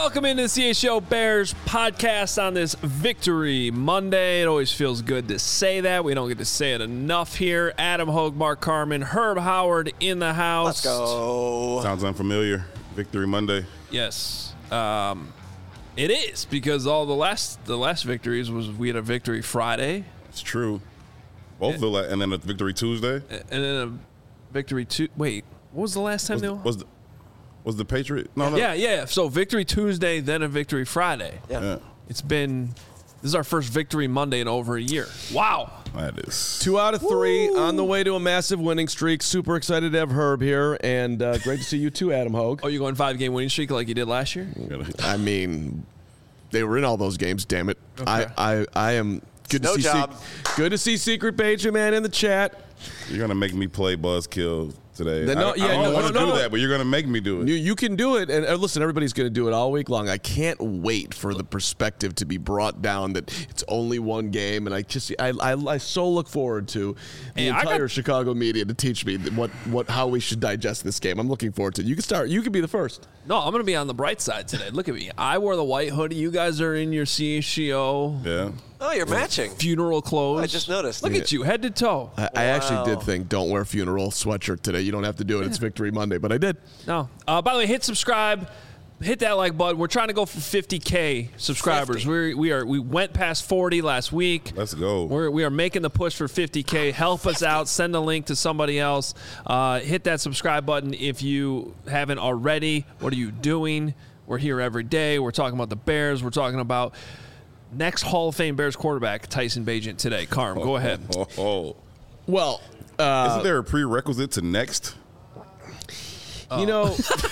Welcome into the CHO Bears podcast on this Victory Monday. It always feels good to say that. We don't get to say it enough here. Adam Hogue, Mark Carman, Herb Howard in the house. Let's go. Sounds unfamiliar. Victory Monday. Yes. It is, because all the last victories was we had a Victory Friday. It's true. Both and then a Victory Tuesday. And then a Victory Wait, what was the last time they were? Was the Patriot? No. Yeah. So Victory Tuesday, then a Victory Friday. Yeah. This is our first Victory Monday in over a year. Wow. That is 2 out of 3 on the way to a massive winning streak. Super excited to have Herb here, and great to see you too, Adam Hogue. Oh, you going 5-game winning streak like you did last year? I mean, they were in all those games. Damn it! Okay. I am good to No see. job. Good to see Secret Benjamin in the chat. You're gonna make me play Buzzkill today. I don't want to do that, but you're gonna make me do it. You can do it, and listen, everybody's going to do it all week long. I can't wait for the perspective to be brought down that it's only one game, and I so look forward to the entire Chicago media to teach me how we should digest this game. I'm looking forward to it. You can start. You can be the first. No, I'm going to be on the bright side today. Look at me. I wore the white hoodie. You guys are in your CHGO. Yeah. Oh, you're matching. Funeral clothes. I just noticed. Look at you, head to toe. I actually did think, don't wear funeral sweatshirt today. You don't have to do it. It's Victory Monday, but I did. No. By the way, hit subscribe. Hit that like button. We're trying to go for 50K subscribers. 50. We went past 40 last week. Let's go. We are making the push for 50K. Help us out. Send a link to somebody else. Hit that subscribe button if you haven't already. What are you doing? We're here every day. We're talking about the Bears. We're talking about next Hall of Fame Bears quarterback, Tyson Bagent, today. Carm, go ahead. Well, isn't there a prerequisite to next? You know,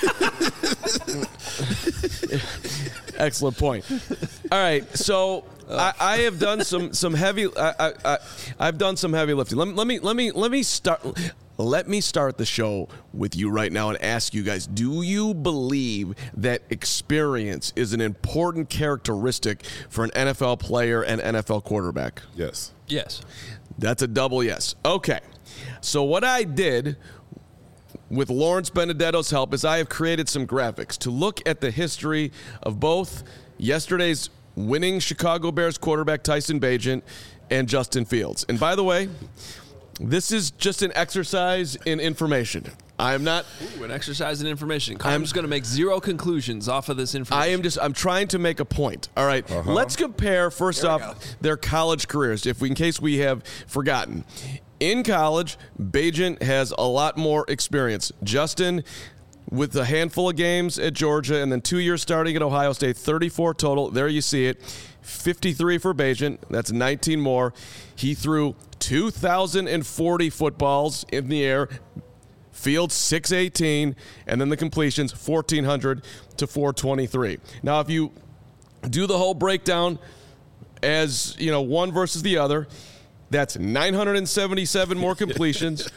excellent point. All right, so I have done some heavy. I've done some heavy lifting. Let me start. Let me start the show with you right now and ask you guys: do you believe that experience is an important characteristic for an NFL player and NFL quarterback? Yes. Yes. That's a double yes. Okay. So what I did with Lawrence Benedetto's help is I have created some graphics to look at the history of both yesterday's winning Chicago Bears quarterback Tyson Bagent and Justin Fields. And by the way, this is just an exercise in information. I'm not. An exercise in information. I'm just going to make zero conclusions off of this information. I'm trying to make a point. All right. Let's compare first off their college careers, in case we have forgotten. In college, Bagent has a lot more experience. Justin, with a handful of games at Georgia and then 2 years starting at Ohio State, 34 total. There you see it. 53 for Bagent. That's 19 more. He threw 2,040 footballs in the air. Fields 618, and then the completions 1,400 to 423. Now, if you do the whole breakdown as one versus the other, that's 977 more completions,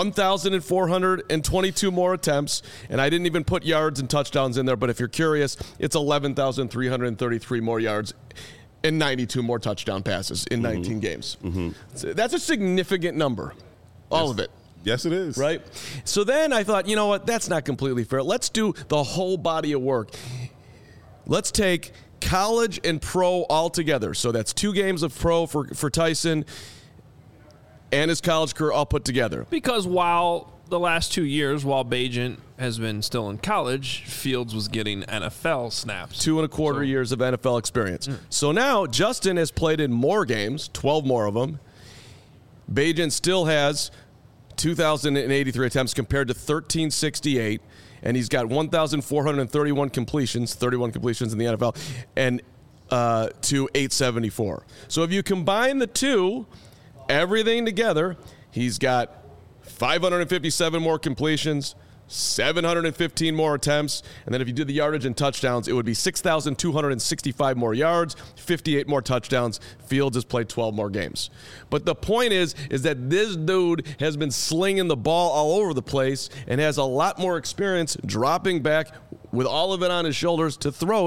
1,422 more attempts, and I didn't even put yards and touchdowns in there, but if you're curious, it's 11,333 more yards and 92 more touchdown passes in 19 games. So that's a significant number, all of it. Yes, it is. Right? So then I thought, you know what, that's not completely fair. Let's do the whole body of work. Let's take college and pro all together. So that's 2 games of pro for Tyson and his college career all put together. Because while the last 2 years, while Bagent has been still in college, Fields was getting NFL snaps. 2.25 years of NFL experience. So now Justin has played in more games, 12 more of them. Bagent still has 2,083 attempts compared to 1,368, and he's got 1,431 completions, 31 completions in the NFL, and to 874. So if you combine the two, everything together, he's got 557 more completions, 715 more attempts, and then if you do the yardage and touchdowns, it would be 6,265 more yards, 58 more touchdowns. Fields has played 12 more games. But the point is that this dude has been slinging the ball all over the place and has a lot more experience dropping back with all of it on his shoulders to throw it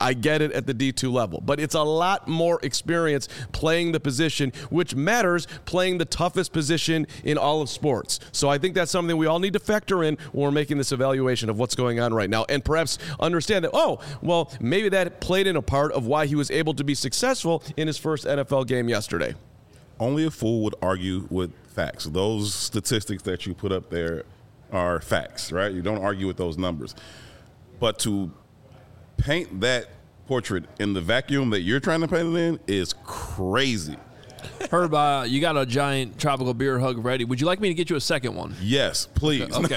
I get it at the D2 level. But it's a lot more experience playing the position, which matters, playing the toughest position in all of sports. So I think that's something we all need to factor in when we're making this evaluation of what's going on right now, and perhaps understand that, oh, well, maybe that played in a part of why he was able to be successful in his first NFL game yesterday. Only a fool would argue with facts. Those statistics that you put up there are facts, right? You don't argue with those numbers. But to paint that portrait in the vacuum that you're trying to paint it in is crazy. Herb, you got a giant tropical beer hug ready. Would you like me to get you a second one? Yes, please. Okay.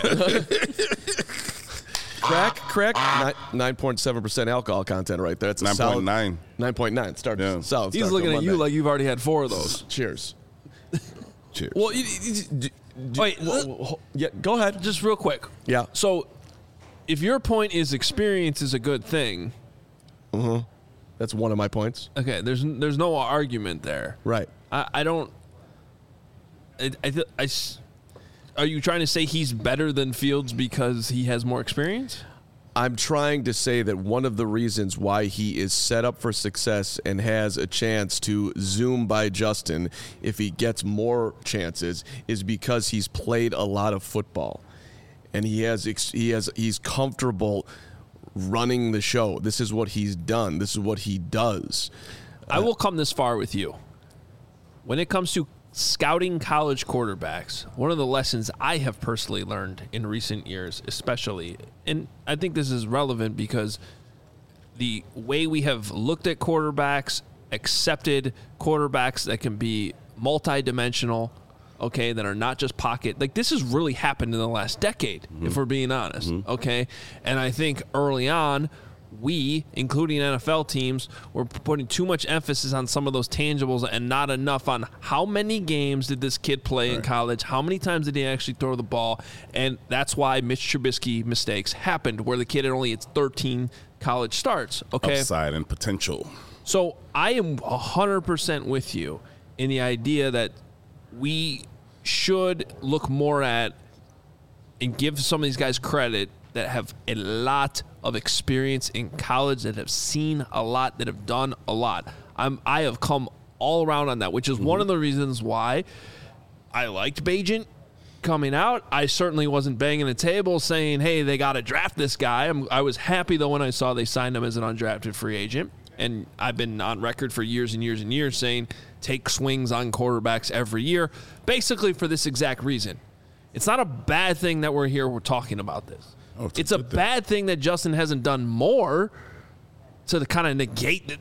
Crack, 9.7% alcohol content right there. It's a 9.9. 9.9. Start. Yeah. Solid. He's start looking to at you Monday. like you've already had 4 of those. Cheers. Cheers. Well, Wait, yeah, go ahead. just real quick. Yeah. So, if your point is experience is a good thing, That's one of my points. okay, there's no argument there. Right. I don't. Are you trying to say he's better than Fields because he has more experience? I'm trying to say that one of the reasons why he is set up for success and has a chance to zoom by Justin if he gets more chances is because he's played a lot of football, and he's comfortable running the show. This is what he's done. This is what he does. I will come this far with you. When it comes to scouting college quarterbacks, one of the lessons I have personally learned in recent years, especially, and I think this is relevant because the way we have looked at quarterbacks, accepted quarterbacks that can be multidimensional, okay, that are not just pocket. Like, this has really happened in the last decade, if we're being honest, okay? And I think early on, we, including NFL teams, were putting too much emphasis on some of those tangibles and not enough on how many games did this kid play in college, how many times did he actually throw the ball, and that's why Mitch Trubisky mistakes happened, where the kid had only 13 college starts, okay? Upside and potential. So I am 100% with you in the idea that we should look more at and give some of these guys credit that have a lot of experience in college, that have seen a lot, that have done a lot. I have come all around on that, which is one of the reasons why I liked Bagent coming out. I certainly wasn't banging the table saying, hey, they got to draft this guy. I was happy, though, when I saw they signed him as an undrafted free agent. And I've been on record for years and years and years saying take swings on quarterbacks every year, basically for this exact reason. It's not a bad thing that we're talking about this. Oh, it's a bad thing that Justin hasn't done more to kind of negate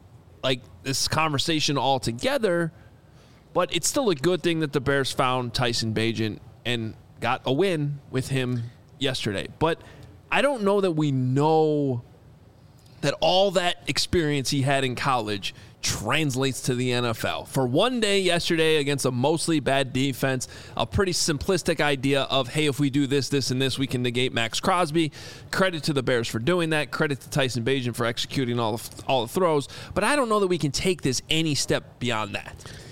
this conversation altogether. But it's still a good thing that the Bears found Tyson Bagent and got a win with him yesterday. But I don't know that we know that all that experience he had in college translates to the NFL. For one day yesterday against a mostly bad defense, a pretty simplistic idea of, hey, if we do this, this, and this, we can negate Max Crosby. Credit to the Bears for doing that. Credit to Tyson Bagent for executing all the throws. But I don't know that we can take this any step beyond that.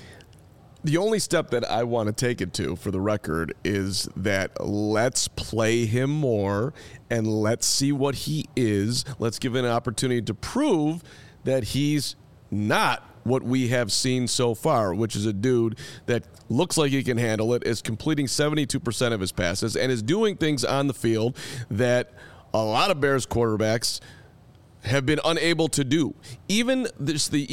The only step that I want to take it to, for the record, is that let's play him more and let's see what he is. Let's give him an opportunity to prove that he's not what we have seen so far, which is a dude that looks like he can handle it, is completing 72% of his passes, and is doing things on the field that a lot of Bears quarterbacks have been unable to do. Even this, the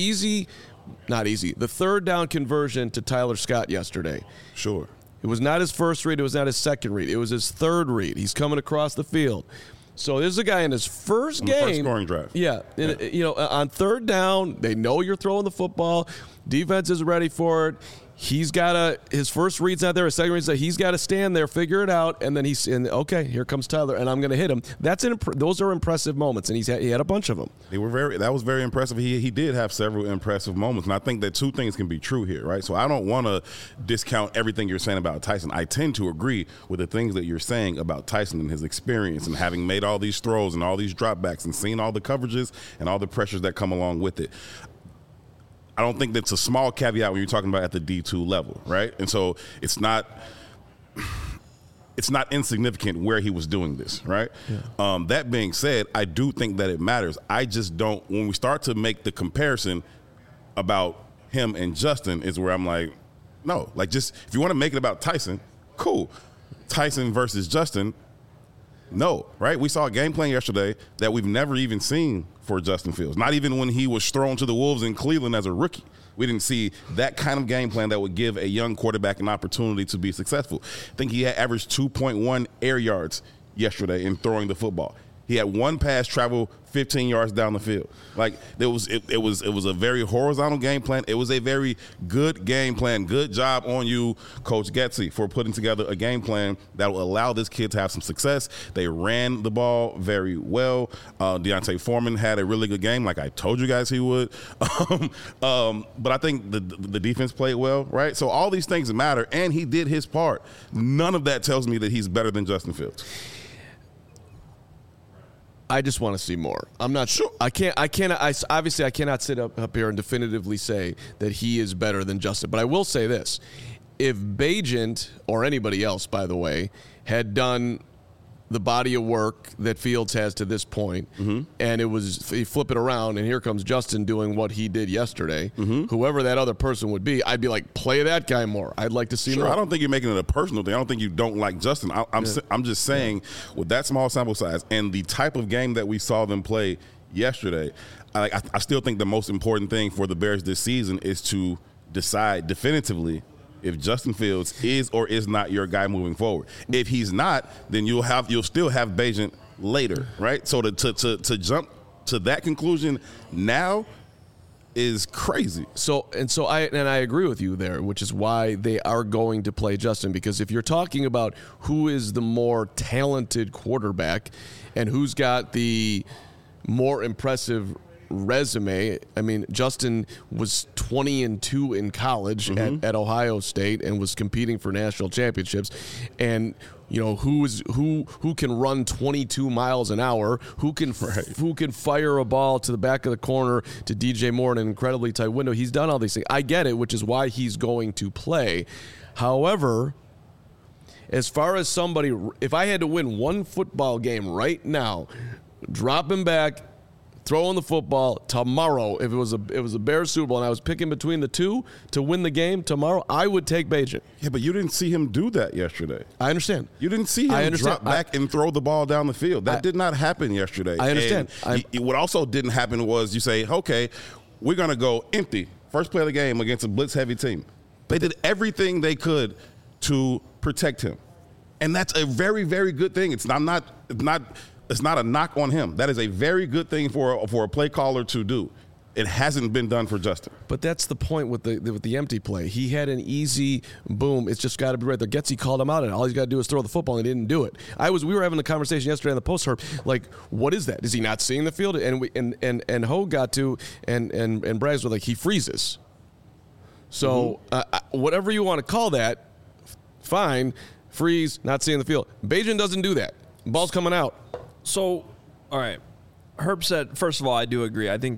third down conversion to Tyler Scott yesterday. Sure. It was not his first read. It was not his second read. It was his third read. He's coming across the field. So there's a guy in his first game. First scoring drive. Yeah. On third down, they know you're throwing the football. Defense is ready for it. He's got his first read's not there. His second read's not. He's got to stand there, figure it out, and then okay, here comes Tyler, and I'm going to hit him. Those are impressive moments, and he had a bunch of them. That was very impressive. He did have several impressive moments, and I think that two things can be true here, right? So I don't want to discount everything you're saying about Tyson. I tend to agree with the things that you're saying about Tyson and his experience and having made all these throws and all these dropbacks and seen all the coverages and all the pressures that come along with it. I don't think that's a small caveat when you're talking about at the D2 level, right? And so it's not it's not insignificant where he was doing this, right? Yeah. That being said, I do think that it matters. I just don't, when we start to make the comparison about him and Justin is where I'm like, no, like just, if you want to make it about Tyson, cool. Tyson versus Justin, no, right? We saw a game plan yesterday that we've never even seen for Justin Fields. Not even when he was thrown to the Wolves in Cleveland as a rookie. We didn't see that kind of game plan that would give a young quarterback an opportunity to be successful. I think he had averaged 2.1 air yards yesterday in throwing the football. He had one pass travel 15 yards down the field. Like it was a very horizontal game plan. It was a very good game plan. Good job on you, Coach Getsy, for putting together a game plan that will allow this kid to have some success. They ran the ball very well. Deontay Foreman had a really good game, like I told you guys he would. But I think the defense played well, right? So all these things matter, and he did his part. None of that tells me that he's better than Justin Fields. I just want to see more. I'm not sure. I cannot sit up here and definitively say that he is better than Justin. But I will say this. If Bagent, or anybody else, by the way, had done the body of work that Fields has to this point, and you flip it around, and here comes Justin doing what he did yesterday, whoever that other person would be, I'd be like, play that guy more. I'd like to see more. I don't think you're making it a personal thing. I don't think you don't like Justin. I'm just saying, with that small sample size and the type of game that we saw them play yesterday, I still think the most important thing for the Bears this season is to decide definitively if Justin Fields is or is not your guy moving forward. If he's not, then you'll still have Bagent later, right? So to jump to that conclusion now is crazy. So I agree with you there, which is why they are going to play Justin, because if you're talking about who is the more talented quarterback and who's got the more impressive resume, I mean, Justin was 20-2 in college at Ohio State and was competing for national championships. And you know, who can run 22 miles an hour, who can fire a ball to the back of the corner to DJ Moore in an incredibly tight window. He's done all these things. I get it, which is why he's going to play. However, as far as somebody, if I had to win one football game right now, drop him back, throwing the football tomorrow, if it was a Bears Super Bowl and I was picking between the two to win the game tomorrow, I would take Bagent. Yeah, but you didn't see him do that yesterday. I understand. You didn't see him drop back and throw the ball down the field. That did not happen yesterday. I understand. What also didn't happen was you say, okay, we're going to go empty. First play of the game against a blitz-heavy team. They did everything they could to protect him. And that's a very, very good thing. It's not a knock on him. That is a very good thing for a play caller to do. It hasn't been done for Justin. But that's the point with the empty play. He had an easy boom. It's just got to be right there. Getsy called him out, and all he's got to do is throw the football, and he didn't do it. We were having a conversation yesterday on the post, Herb, like, what is that? Is he not seeing the field? And Ho got to, and Brags were like, he freezes. So whatever you want to call that, fine. Freeze, not seeing the field. Bagent doesn't do that. Ball's coming out. So, all right. Herb said, first of all, I do agree. I think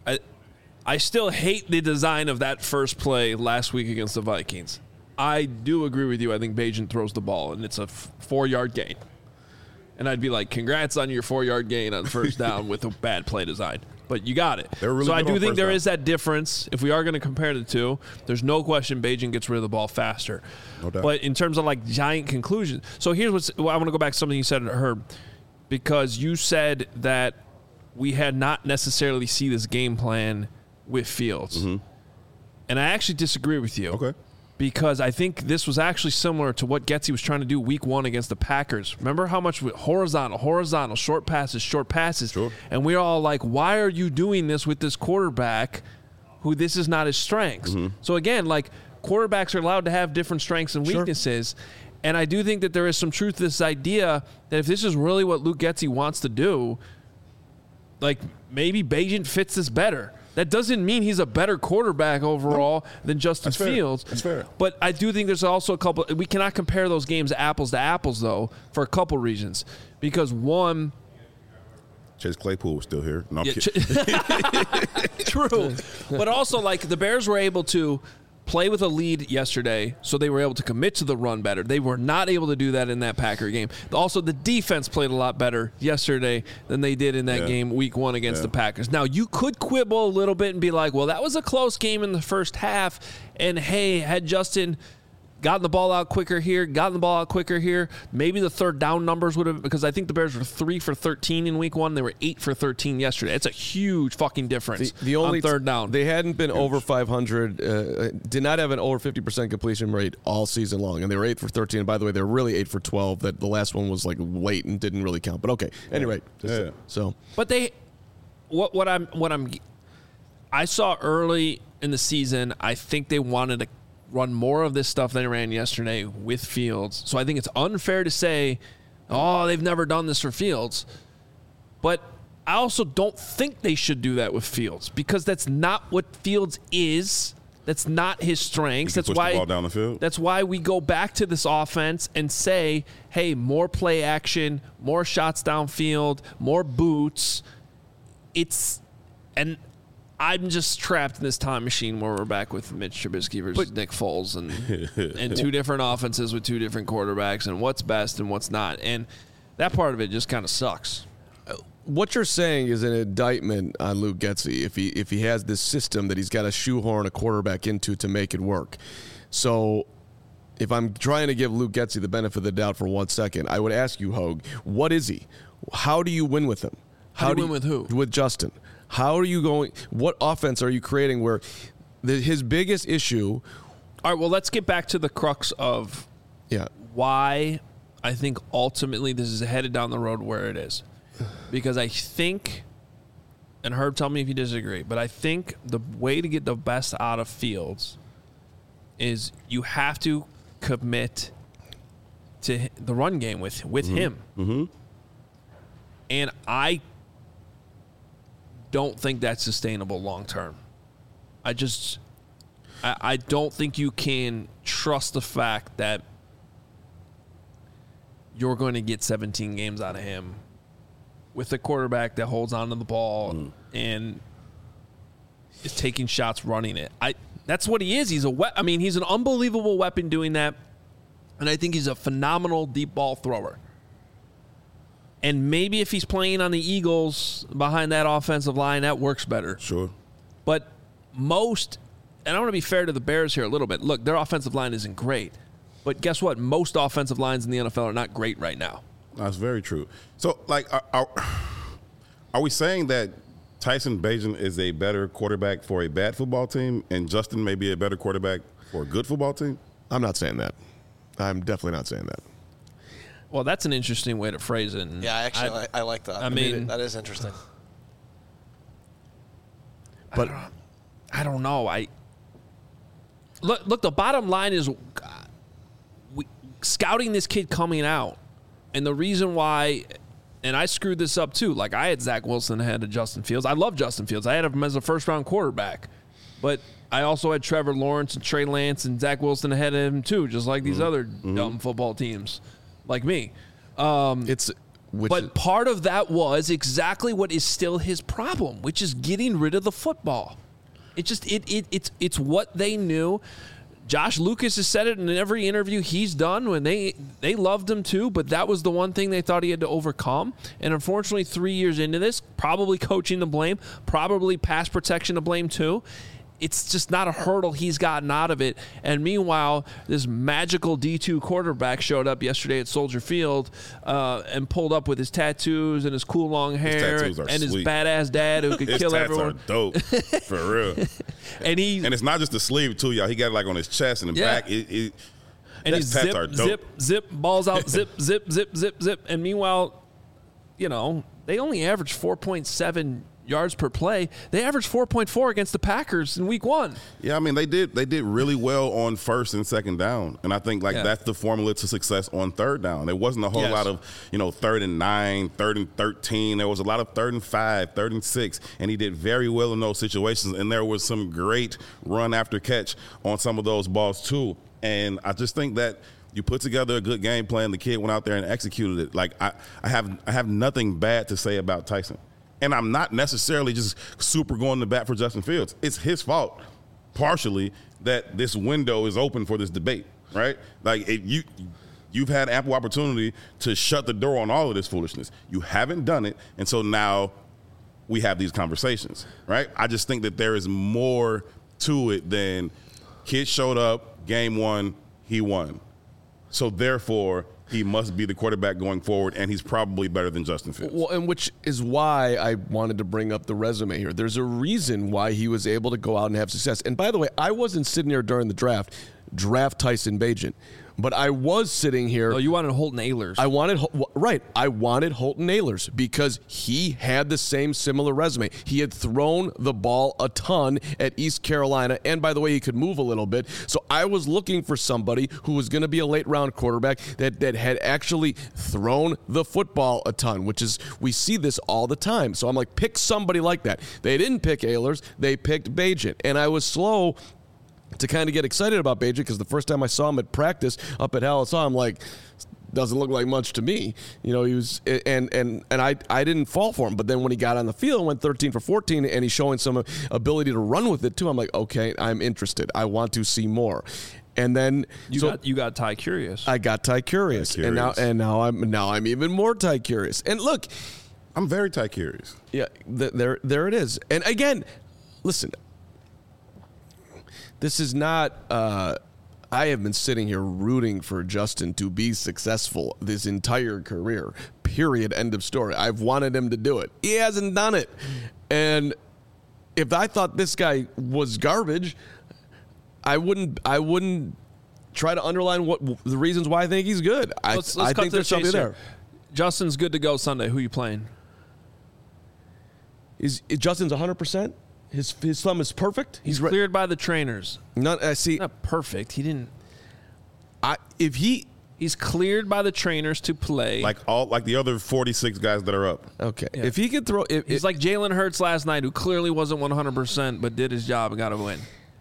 I still hate the design of that first play last week against the Vikings. I do agree with you. I think Bagent throws the ball, and it's a 4-yard gain. And I'd be like, congrats on your 4-yard gain on first down with a bad play design. But you got it. Really so I do think there is that difference. If we are going to compare the two, there's no question Bagent gets rid of the ball faster. No doubt. But in terms of like giant conclusions, so here's I want to go back to something you said, Herb, because you said that we had not necessarily see this game plan with Fields. And I actually disagree with you. Okay. Because I think this was actually similar to what Getsy was trying to do week 1 against the Packers. Remember how much horizontal, short passes. Sure. And we're all like, why are you doing this with this quarterback who this is not his strengths? So again, like, quarterbacks are allowed to have different strengths and weaknesses. Sure. And I do think that there is some truth to this idea that if this is really what Luke Getsy wants to do, like, maybe Bagent fits this better. That doesn't mean he's a better quarterback overall than Justin Fields. That's fair. But I do think there's also a couple – we cannot compare those games apples to apples, though, for a couple reasons. Because, one – Chase Claypool was still here. No, I'm kidding. True. But also, like, the Bears were able to play with a lead yesterday, so they were able to commit to the run better. They were not able to do that in that Packer game. Also, the defense played a lot better yesterday than they did in that game week 1 against the Packers. Now, you could quibble a little bit and be like, well, that was a close game in the first half, and hey, had Justin gotten the ball out quicker here, maybe the third down numbers would have, because I think the Bears were 3 for 13 in week 1. They were 8 for 13 yesterday. It's a huge fucking difference the only on third down. They hadn't been over 500, did not have an over 50% completion rate all season long, and they were 8 for 13. And by the way, they're really 8 for 12. That the last one was like late and didn't really count. But okay, anyway, so. But I saw early in the season, I think they wanted to run more of this stuff they ran yesterday with Fields. So I think it's unfair to say, oh, they've never done this for Fields. But I also don't think they should do that with Fields, because that's not what Fields is. That's not his strengths. That's why the ball down the field. That's why we go back to this offense and say, hey, more play action, more shots downfield, more boots. I'm just trapped in this time machine where we're back with Mitch Trubisky versus Nick Foles and two different offenses with two different quarterbacks and what's best and what's not. And that part of it just kind of sucks. What you're saying is an indictment on Luke Getsy if he has this system that he's got to shoehorn a quarterback into to make it work. So if I'm trying to give Luke Getsy the benefit of the doubt for 1 second, I would ask you, Hogue, what is he? How do you win with him? How do you win with who? With Justin. How are you going? What offense are you creating where his biggest issue? All right, well, let's get back to the crux of why I think ultimately this is headed down the road where it is. Because I think, and Herb, tell me if you disagree, but I think the way to get the best out of Fields is you have to commit to the run game with him. Mm-hmm. And I don't think that's sustainable long term. I don't think you can trust the fact that you're going to get 17 games out of him with a quarterback that holds onto the ball and is taking shots running it. That's what he is. He's he's an unbelievable weapon doing that, and I think he's a phenomenal deep ball thrower. And maybe if he's playing on the Eagles behind that offensive line, that works better. Sure. But and I want to be fair to the Bears here a little bit. Look, their offensive line isn't great. But guess what? Most offensive lines in the NFL are not great right now. That's very true. So, are we saying that Tyson Bagent is a better quarterback for a bad football team and Justin may be a better quarterback for a good football team? I'm not saying that. I'm definitely not saying that. Well, that's an interesting way to phrase it. Yeah, actually, I like that. I mean, that is interesting. But I don't know. Look. The bottom line is scouting this kid coming out, and the reason why. And I screwed this up too. Like, I had Zach Wilson ahead of Justin Fields. I love Justin Fields. I had him as a first-round quarterback, but I also had Trevor Lawrence and Trey Lance and Zach Wilson ahead of him too, just like these other dumb football teams. Like me. But part of that was exactly what is still his problem, which is getting rid of the football. It's what they knew. Josh Lucas has said it in every interview he's done when they loved him too, but that was the one thing they thought he had to overcome. And unfortunately, 3 years into this, probably coaching to blame, probably pass protection to blame too. It's just not a hurdle he's gotten out of it. And meanwhile, this magical D2 quarterback showed up yesterday at Soldier Field and pulled up with his tattoos and his cool long hair and his badass dad who could kill everyone. His tats are dope, for real. and it's not just the sleeve too, y'all. He got it like on his chest and the back. And his zip, balls out, zip. And meanwhile, they only average 4.7 yards per play. They averaged 4.4 against the Packers in week 1. Yeah, I mean, they did really well on first and second down. And I think that's the formula to success on third down. There wasn't a whole lot of, 3rd and 9, 3rd and 13. There was a lot of 3rd and 5, 3rd and 6, and he did very well in those situations. And there was some great run after catch on some of those balls too. And I just think that you put together a good game plan. The kid went out there and executed it. Like, I have nothing bad to say about Tyson. And I'm not necessarily just super going to bat for Justin Fields. It's his fault. partially that this window is open for this debate, right? Like you've had ample opportunity to shut the door on all of this foolishness. You haven't done it, and so now we have these conversations, right? I just think that there is more to it than kid showed up, game one, he won. So therefore, he must be the quarterback going forward, and he's probably better than Justin Fields. Well, and which is why I wanted to bring up the resume here. There's a reason why he was able to go out and have success. And by the way, I wasn't sitting here during the draft Tyson Bagent. But I was sitting here. Oh, you wanted Holton Ahlers. I wanted Holton Ahlers because he had the same similar resume. He had thrown the ball a ton at East Carolina, and by the way, he could move a little bit. So I was looking for somebody who was going to be a late-round quarterback that had actually thrown the football a ton, which is, we see this all the time. So I'm like, pick somebody like that. They didn't pick Ahlers. They picked Bagent, and I was slow to kind of get excited about Bagent because the first time I saw him at practice up at Halasaw, I'm like, doesn't look like much to me. You know, he was, and I didn't fall for him. But then when he got on the field, went 13 for 14, and he's showing some ability to run with it too. I'm like, okay, I'm interested. I want to see more. And then you got Ty Curious. I got Ty Curious, and now I'm even more Ty Curious. And look, I'm very Ty Curious. Yeah, there it is. And again, listen. This is not, I have been sitting here rooting for Justin to be successful this entire career, period, end of story. I've wanted him to do it. He hasn't done it. And if I thought this guy was garbage, I wouldn't try to underline what the reasons why I think he's good. I think there's something there. Justin's good to go Sunday. Who are you playing? Justin's 100%? His thumb is perfect. He's cleared by the trainers. Not perfect. He didn't. He's cleared by the trainers to play. Like the other 46 guys that are up. Okay. Yeah. If he could throw, he's like Jalen Hurts last night, who clearly wasn't 100%, but did his job and got a win.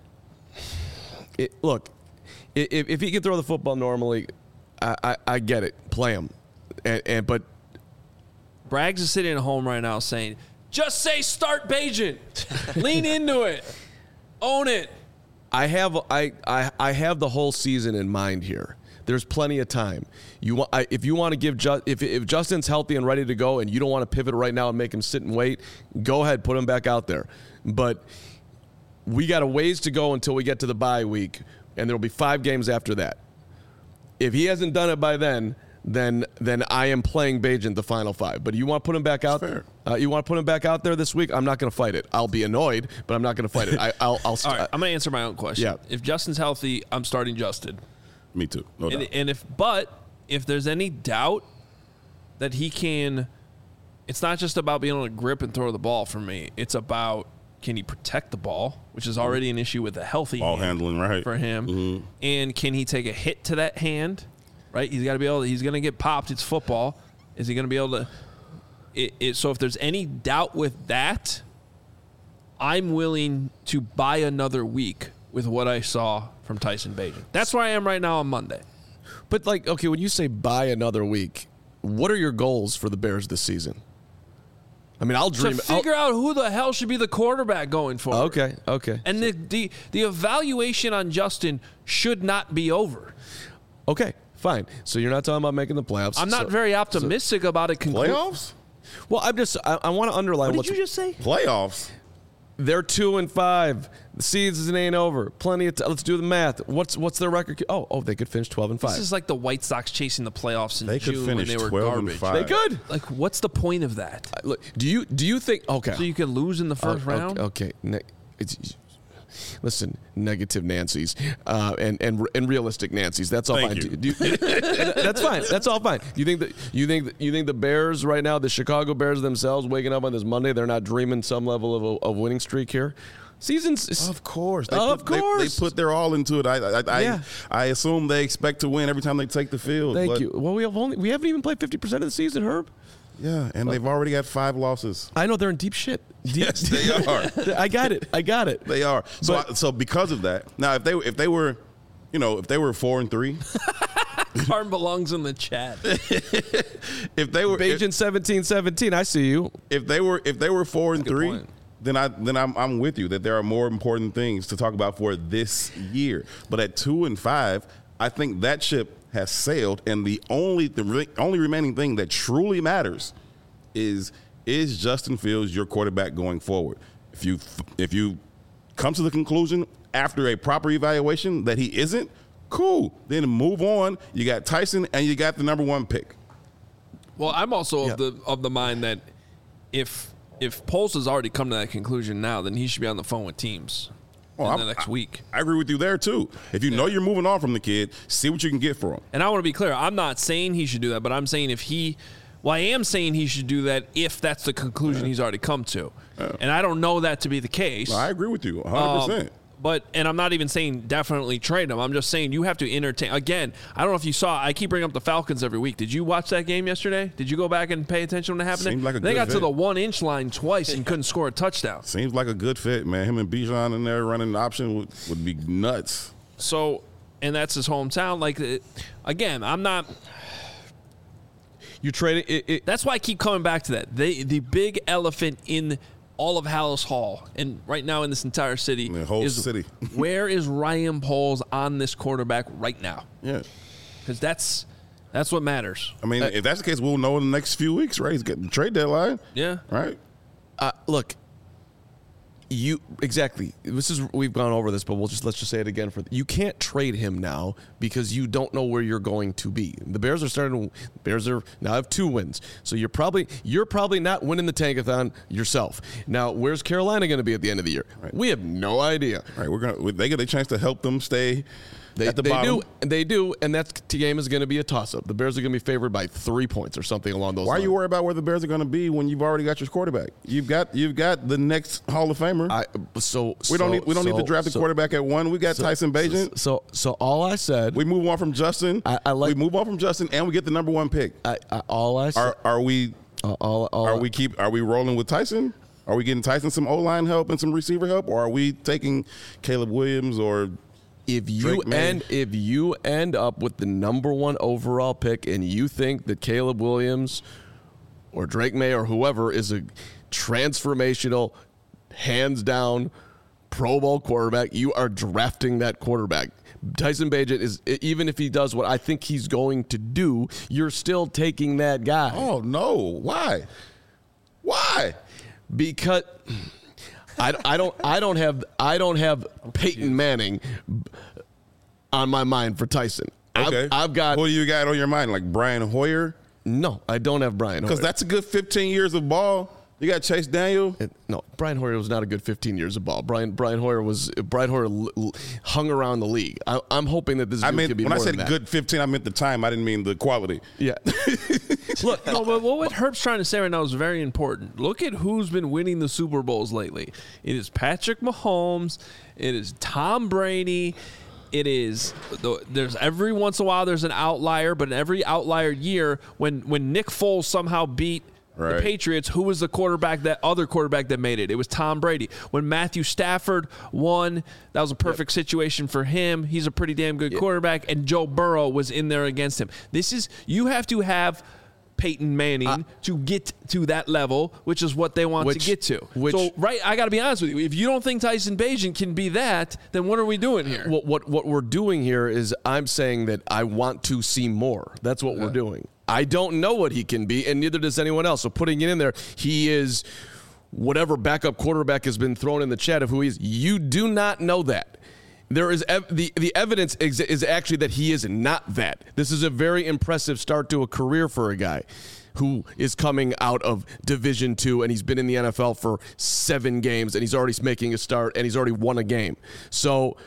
Look, if he could throw the football normally, I get it. Play him, but Braggs is sitting at home right now saying, just say start Bagent. Lean into it. Own it. I have the whole season in mind here. There's plenty of time. If you want to give if Justin's healthy and ready to go, and you don't want to pivot right now and make him sit and wait, go ahead, put him back out there. But we got a ways to go until we get to the bye week, and there'll be 5 games after that. If he hasn't done it by then I am playing Bagent the final 5. But you want to put him back out there? You want to put him back out there this week? I'm not going to fight it. I'll be annoyed, but I'm not going to fight it. All right, I'm going to answer my own question. Yeah. If Justin's healthy, I'm starting Justin. Me too. No doubt. And if there's any doubt that he can, it's not just about being able to grip and throw the ball for me. It's about, can he protect the ball, which is already an issue with a healthy ball hand handling, right, for him. Mm-hmm. And can he take a hit to that hand? Right, he's got to be able. He's going to get popped. It's football. Is he going to be able to? So if there's any doubt with that, I'm willing to buy another week with what I saw from Tyson Bagent. That's where I am right now on Monday. But okay, when you say buy another week, what are your goals for the Bears this season? I mean, I'll dream. To figure out who the hell should be the quarterback going forward. Okay. And the evaluation on Justin should not be over. Okay. Fine. So you're not talking about making the playoffs. I'm not very optimistic about it. Playoffs? Well, I want to underline what did you just say? Playoffs. They're 2-5. The season ain't over. Plenty of let's do the math. What's their record? Oh, they could finish 12-5. This is like the White Sox chasing the playoffs in June when they were 12-5. garbage. They could. Like, what's the point of that? Look, do you think? Okay. So you can lose in the first round? Okay. Listen, negative Nancy's and realistic Nancy's. That's all fine. That's fine. That's all fine. You think the Bears right now, the Chicago Bears themselves, waking up on this Monday, they're not dreaming some level of winning streak here? Seasons, of course. They put their all into it. I assume they expect to win every time they take the field. Thank you. Well, we haven't even played 50% of the season, Herb. Yeah, and they've already got 5 losses. I know they're in deep shit. Yes, they are. I got it. They are. So because of that, now if they were 4-3, Carm belongs in the chat. If they were Bagent 17-17, I see you. If they were 4-3, then I'm with you that there are more important things to talk about for this year. But at 2-5, I think that ship has sailed, and the only remaining thing that truly matters is Justin Fields your quarterback going forward? If you come to the conclusion after a proper evaluation that he isn't, cool. Then move on. You got Tyson, and you got the number 1 pick. Well, I'm also of the mind that if Poles has already come to that conclusion now, then he should be on the phone with teams in the next week. I agree with you there, too. If you know you're moving on from the kid, see what you can get for him. And I want to be clear. I'm not saying he should do that, but I'm saying I am saying he should do that if that's the conclusion he's already come to. And I don't know that to be the case. No, I agree with you 100%. And I'm not even saying definitely trade him. I'm just saying you have to entertain. Again, I don't know if you saw, I keep bringing up the Falcons every week. Did you watch that game yesterday? Did you go back and pay attention to what happened? Seems like they got to the 1-inch line twice and couldn't score a touchdown. Seems like a good fit, man. Him and Bijan in there running the option would be nuts. So, and that's his hometown. Like, again, I'm not. You trade it. That's why I keep coming back to that. The big elephant in all of Hallis Hall and right now in this entire city the whole city. Where is Ryan Poles on this quarterback right now? Yeah. Because that's what matters. I mean, if that's the case, we'll know in the next few weeks, right? He's getting the trade deadline. Yeah. Right? Look, we've gone over this, but let's just say it again. You can't trade him now because you don't know where you're going to be. The Bears now have 2 wins, so you're probably not winning the Tankathon yourself. Now, where's Carolina going to be at the end of the year? Right. We have no idea. Right, they get a chance to help them stay. At the bottom. They do, and that game is going to be a toss-up. The Bears are going to be favored by 3 points or something along those lines. Why are you worried about where the Bears are going to be when you've already got your quarterback? You've got the next Hall of Famer. We don't need to draft a quarterback at 1. We got Tyson Bagent. So all I said. We move on from Justin. We move on from Justin, and we get the number 1 pick. All I said. Are we rolling with Tyson? Are we getting Tyson some O-line help and some receiver help, or are we taking Caleb Williams or? If you end up with the number 1 overall pick and you think that Caleb Williams or Drake May or whoever is a transformational, hands down Pro Bowl quarterback, you are drafting that quarterback. Tyson Bagent is, even if he does what I think he's going to do, you're still taking that guy. Oh no! Why? Because I don't have Peyton Manning on my mind for Tyson. Okay. I've got. Who do you got on your mind? Like Brian Hoyer? No, I don't have Brian Hoyer. Because that's a good 15 years of ball. You got Chase Daniel. No, Brian Hoyer was not a good 15 years of ball. Brian Hoyer hung around the league. I'm hoping that this dude could be more than that. When I said good 15, I meant the time. I didn't mean the quality. Yeah. Look, no, but what Herb's trying to say right now is very important. Look at who's been winning the Super Bowls lately. It is Patrick Mahomes. It is Tom Brady. It is there's every once in a while there's an outlier, but in every outlier year when Nick Foles somehow beat the Patriots, who was the other quarterback that made it? It was Tom Brady. When Matthew Stafford won, that was a perfect situation for him. He's a pretty damn good quarterback, and Joe Burrow was in there against him. You have to have Peyton Manning to get to that level, which is what they want to get to. I got to be honest with you. If you don't think Tyson Bagent can be that, then what are we doing here? What we're doing here is I'm saying that I want to see more. That's what we're doing. I don't know what he can be, and neither does anyone else. So putting it in there, he is whatever backup quarterback has been thrown in the chat of who he is. You do not know that. There is the evidence is actually that he is not that. This is a very impressive start to a career for a guy who is coming out of Division II, and he's been in the NFL for 7 games, and he's already making a start, and he's already won a game. So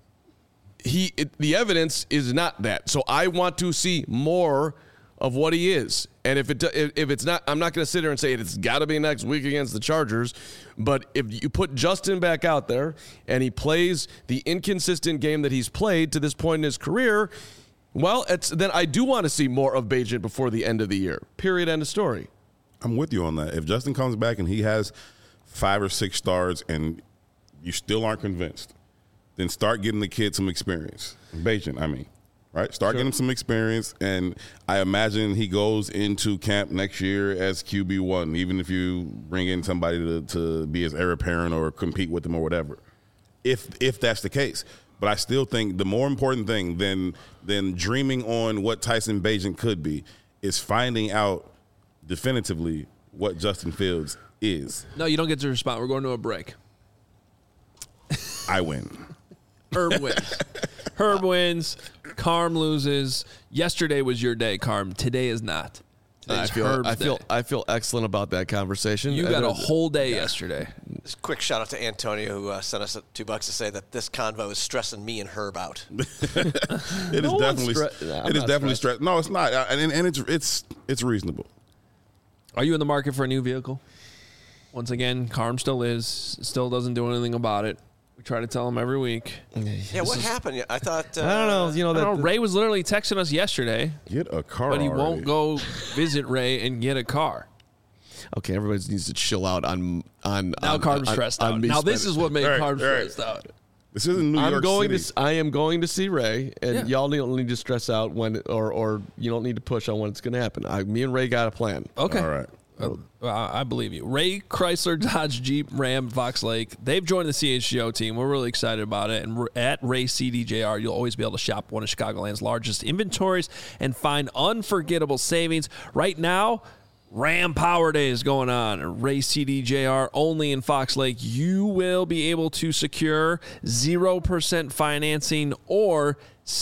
the evidence is not that. So I want to see more of what he is. And if it's not, I'm not going to sit here and say it's got to be next week against the Chargers. But if you put Justin back out there and he plays the inconsistent game that he's played to this point in his career, well, then I do want to see more of Bagent before the end of the year. Period. End of story. I'm with you on that. If Justin comes back and he has 5 or 6 starts and you still aren't convinced, then start getting the kid some experience. Bagent, I mean. right? Start getting some experience, and I imagine he goes into camp next year as QB1, even if you bring in somebody to be his heir apparent or compete with him or whatever, if that's the case. But I still think the more important thing than dreaming on what Tyson Bagent could be is finding out definitively what Justin Fields is. No, you don't get to respond. We're going to a break. I win. Herb wins. Herb wins. Carm loses. Yesterday was your day, Carm. Today is not. I feel excellent about that conversation. You got a whole day yesterday. Just a quick shout out to Antonio who sent us $2 to say that this convo is stressing me and Herb out. It is definitely stress. No, it's not, and it's reasonable. Are you in the market for a new vehicle? Once again, Carm still still doesn't do anything about it. We try to tell him every week. Yeah, what happened? I thought. I don't know. Ray was literally texting us yesterday. Get a car, but he already. won't go visit Ray and get a car. Okay, everybody needs to chill out on now Carm's stressed out. Now this is what made Carm stressed out. This isn't New York City. I am going to see Ray, and y'all don't need to stress out when, or you don't need to push on when it's going to happen. Me and Ray got a plan. Okay. All right. I believe you. Ray Chrysler, Dodge, Jeep, Ram, Fox Lake. They've joined the CHGO team. We're really excited about it. And at Ray CDJR, you'll always be able to shop one of Chicagoland's largest inventories and find unforgettable savings. Right now, Ram Power Day is going on. Ray CDJR only in Fox Lake. You will be able to secure 0% financing or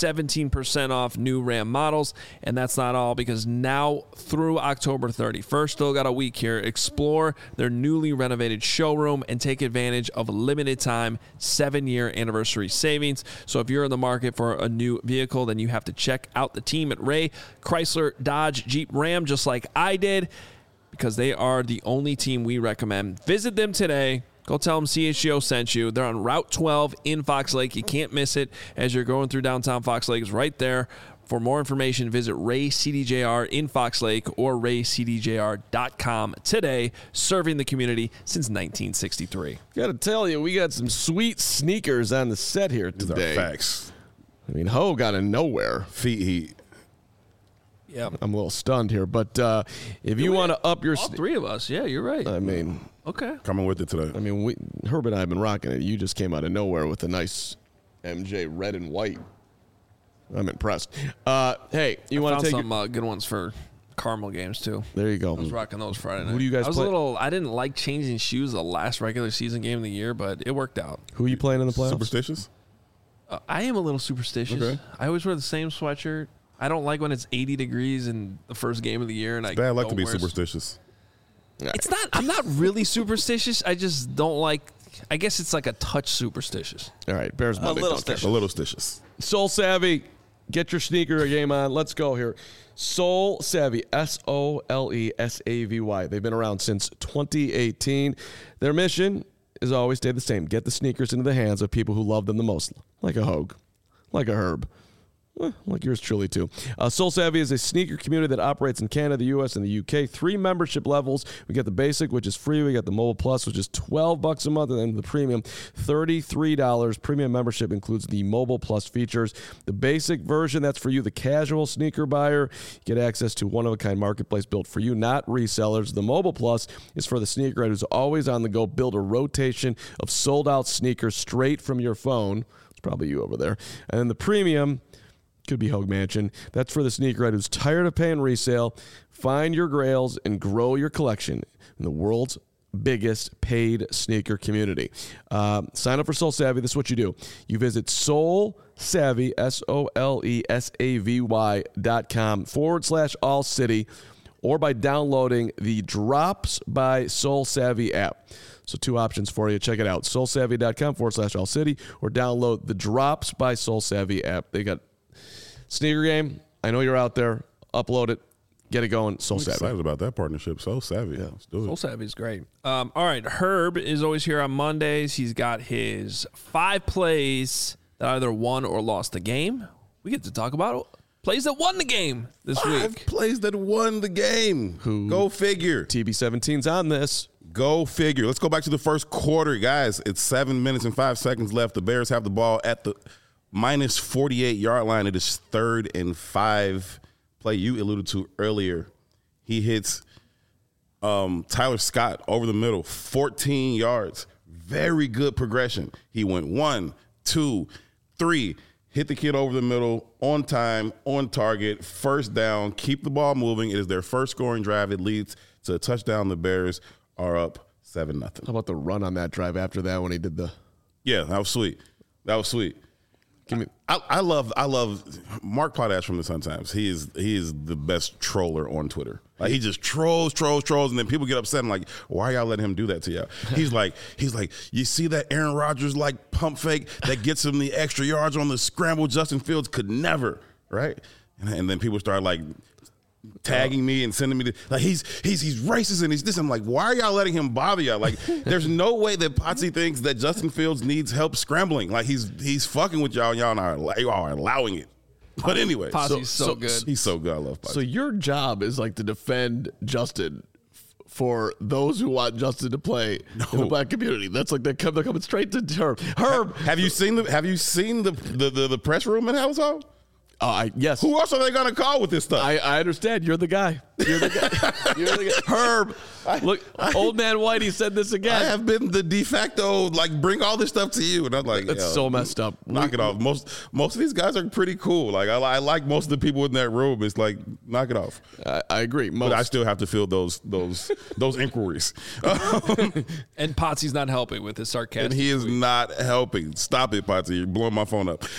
17% off new Ram models. And that's not all, because now through October 31st, still got a week here, explore their newly renovated showroom and take advantage of limited time 7-year anniversary savings. So if you're in the market for a new vehicle, then you have to check out the team at Ray Chrysler, Dodge, Jeep, Ram, just like I did, because they are the only team we recommend. Visit them today. Go tell them CHGO sent you. They're on Route 12 in Fox Lake. You can't miss it as you're going through downtown Fox Lake. It's right there. For more information, visit Ray CDJR in Fox Lake or raycdjr.com today, serving the community since 1963. Got to tell you, we got some sweet sneakers on the set here today. These are facts. I mean, Ho got in nowhere. Feet heat. Yeah, I'm a little stunned here, but if you want to up your... All three of us. Yeah, you're right. I mean... Okay. Coming with it today. I mean, Herb and I have been rocking it. You just came out of nowhere with a nice MJ red and white. I'm impressed. Hey, you want to take some good ones for Carmel games too? There you go. I was rocking those Friday night. Who do you guys play? I didn't like changing shoes the last regular season game of the year, but it worked out. Who are you playing in the playoffs? Superstitious? I am a little superstitious. Okay. I always wear the same sweatshirt. I don't like when it's 80 degrees in the first game of the year, and it's bad luck to be superstitious. It's not. I'm not really superstitious. I just don't like. I guess it's like a touch superstitious. All right, Bears Monday. A little stitious. Soul Savvy, get your sneaker game on. Let's go here. Soul Savvy, SOLESAVY. They've been around since 2018. Their mission is always stay the same: get the sneakers into the hands of people who love them the most, like a Hogue, like a Herb. Like yours truly, too. Soul Savvy is a sneaker community that operates in Canada, the U.S., and the U.K. 3 membership levels. We get the basic, which is free. We got the Mobile Plus, which is $12 a month. And then the premium, $33. Premium membership includes the Mobile Plus features. The basic version, that's for you, the casual sneaker buyer. You get access to one-of-a-kind marketplace built for you, not resellers. The Mobile Plus is for the sneakerhead who's always on the go. Build a rotation of sold-out sneakers straight from your phone. It's probably you over there. And then the premium... could be Hogue Mansion. That's for the sneakerhead who's tired of paying resale. Find your grails and grow your collection in the world's biggest paid sneaker community. Sign up for Soul Savvy. This is what you do. You visit Soul Savvy, SOLESAVY.com/All City, or by downloading the Drops by Soul Savvy app. So 2 options for you. Check it out. SoulSavvy.com/All City, or download the Drops by Soul Savvy app. They got sneaker game. I know you're out there. Upload it. Get it going. Soul Savvy. Excited about that partnership. Soul Savvy. Yeah, let's do it. Soul Savvy is great. All right. Herb is always here on Mondays. He's got his 5 plays that either won or lost the game. We get to talk about plays that won the game this week. 5 plays that won the game. Go figure. TB17's on this. Go figure. Let's go back to the first quarter, guys. It's 7 minutes and 5 seconds left. The Bears have the ball at the minus 48-yard line. It is 3rd and 5. Play you alluded to earlier. He hits Tyler Scott over the middle, 14 yards. Very good progression. He went 1, 2, 3. Hit the kid over the middle, on time, on target, first down, keep the ball moving. It is their first scoring drive. It leads to a touchdown. The Bears are up 7-0. How about the run on that drive after that when he did the... Yeah, that was sweet. I love Mark Potash from the Sun-Times. He is the best troller on Twitter. Like, he just trolls, and then people get upset. I'm like, why y'all letting him do that to y'all? He's like, you see that Aaron Rodgers like pump fake that gets him the extra yards on the scramble? Justin Fields could never, right? And then people start like tagging me and sending me like he's racist and he's this. I'm like, why are y'all letting him bother y'all? Like, there's no way that Potsy thinks that Justin Fields needs help scrambling. Like, he's fucking with y'all. Y'all are allowing it. But anyway, Potsy's so good. He's so good. I love Potsy. So your job is like to defend Justin for those who want Justin to play in the black community. That's like they're coming straight to Herb. Have you seen the press room at Household? Yes. Who else are they gonna call with this stuff? I understand. You're the guy. You're the guy. Herb. Look, old man Whitey said this again. I have been the de facto, like, bring all this stuff to you. And I'm like, that's so messed up. Knock it off. Most of these guys are pretty cool. Like, I like most of the people in that room. It's like, knock it off. I agree. But I still have to field those inquiries. And Potsy's not helping with his sarcasm. And he is not helping. Stop it, Potsy. You're blowing my phone up.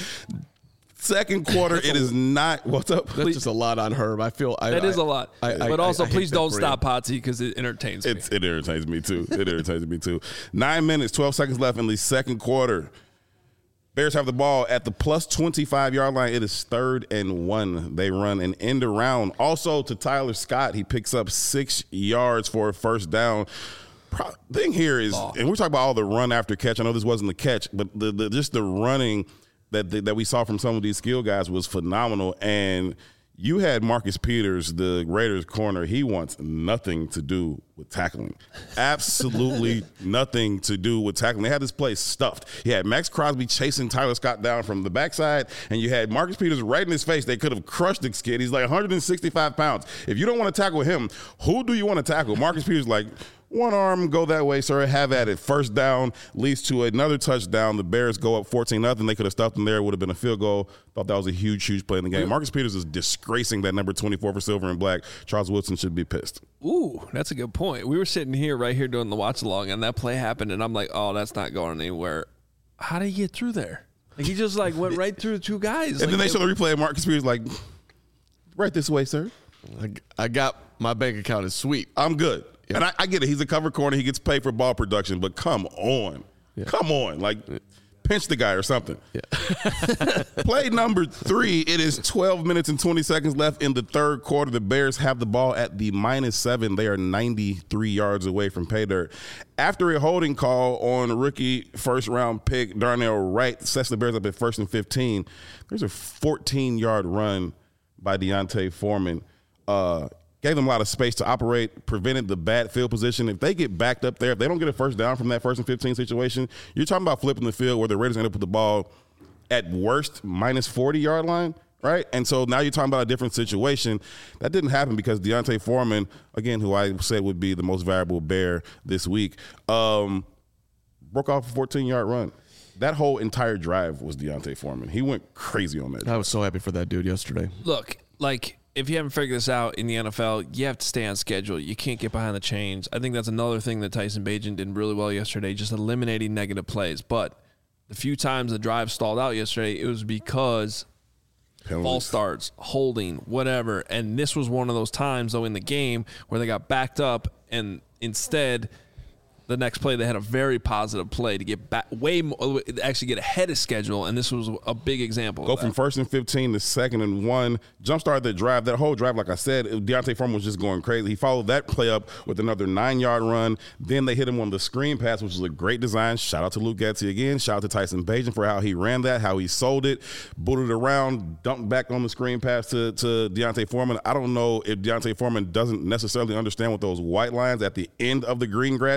Second quarter, it is not. What's up? That's just a lot on Herb. I feel that is a lot. But also, please don't stop him. Potsy because it entertains me. It irritates me too. 9 minutes, 12 seconds left in the second quarter. Bears have the ball at the plus 25-yard line. It is 3rd and 1. They run an end around. Also to Tyler Scott, he picks up 6 yards for a first down. Thing here is, and we're talking about all the run after catch. I know this wasn't the catch, but just the running that we saw from some of these skill guys was phenomenal. And you had Marcus Peters, the Raiders corner. He wants nothing to do with tackling. Absolutely nothing to do with tackling. They had this place stuffed. You had Max Crosby chasing Tyler Scott down from the backside, and you had Marcus Peters right in his face. They could have crushed this kid. He's like 165 pounds. If you don't want to tackle him, who do you want to tackle? Marcus Peters like, one arm, go that way, sir. Have at it. First down leads to another touchdown. The Bears go up 14-0. They could have stuffed them there. It would have been a field goal. Thought that was a huge play in the game. Marcus Peters is disgracing that number 24 for silver and black. Charles Woodson should be pissed. Ooh, that's a good point. We were sitting here right here doing the watch along, and that play happened, and I'm like, oh, that's not going anywhere. How did he get through there? Like, he just like went right through the two guys. And then they show the replay of Marcus Peters like, right this way, sir. I got my bank account is sweet. I'm good. Yeah. And I get it. He's a cover corner. He gets paid for ball production. But come on. Yeah. Come on. Like, pinch the guy or something. Yeah. Play number 3. It is 12 minutes and 20 seconds left in the third quarter. The Bears have the ball at the -7. They are 93 yards away from pay dirt. After a holding call on rookie first-round pick Darnell Wright, sets the Bears up at 1st and 15. There's a 14-yard run by D'Onta Foreman. Gave them a lot of space to operate, prevented the bad field position. If they get backed up there, if they don't get a first down from that 1st and 15 situation, you're talking about flipping the field where the Raiders end up with the ball at worst -40-yard line, right? And so now you're talking about a different situation. That didn't happen because D'Onta Foreman, again, who I said would be the most valuable Bear this week, broke off a 14-yard run. That whole entire drive was D'Onta Foreman. He went crazy on that drive. I was so happy for that dude yesterday. Look, like, if you haven't figured this out in the NFL, you have to stay on schedule. You can't get behind the chains. I think that's another thing that Tyson Bagent did really well yesterday, just eliminating negative plays. But the few times the drive stalled out yesterday, it was because false starts, holding, whatever. And this was one of those times, though, in the game where they got backed up and instead – the next play, they had a very positive play to get back way more, actually get ahead of schedule, and this was a big example. Go from 1st and 15 to 2nd and 1. Jumpstart that drive. That whole drive, like I said, D'Onta Foreman was just going crazy. He followed that play up with another 9-yard run. Then they hit him on the screen pass, which was a great design. Shout out to Luke Getsy again. Shout out to Tyson Bagent for how he ran that, how he sold it, booted around, dumped back on the screen pass to D'Onta Foreman. I don't know if D'Onta Foreman doesn't necessarily understand what those white lines at the end of the green grass means,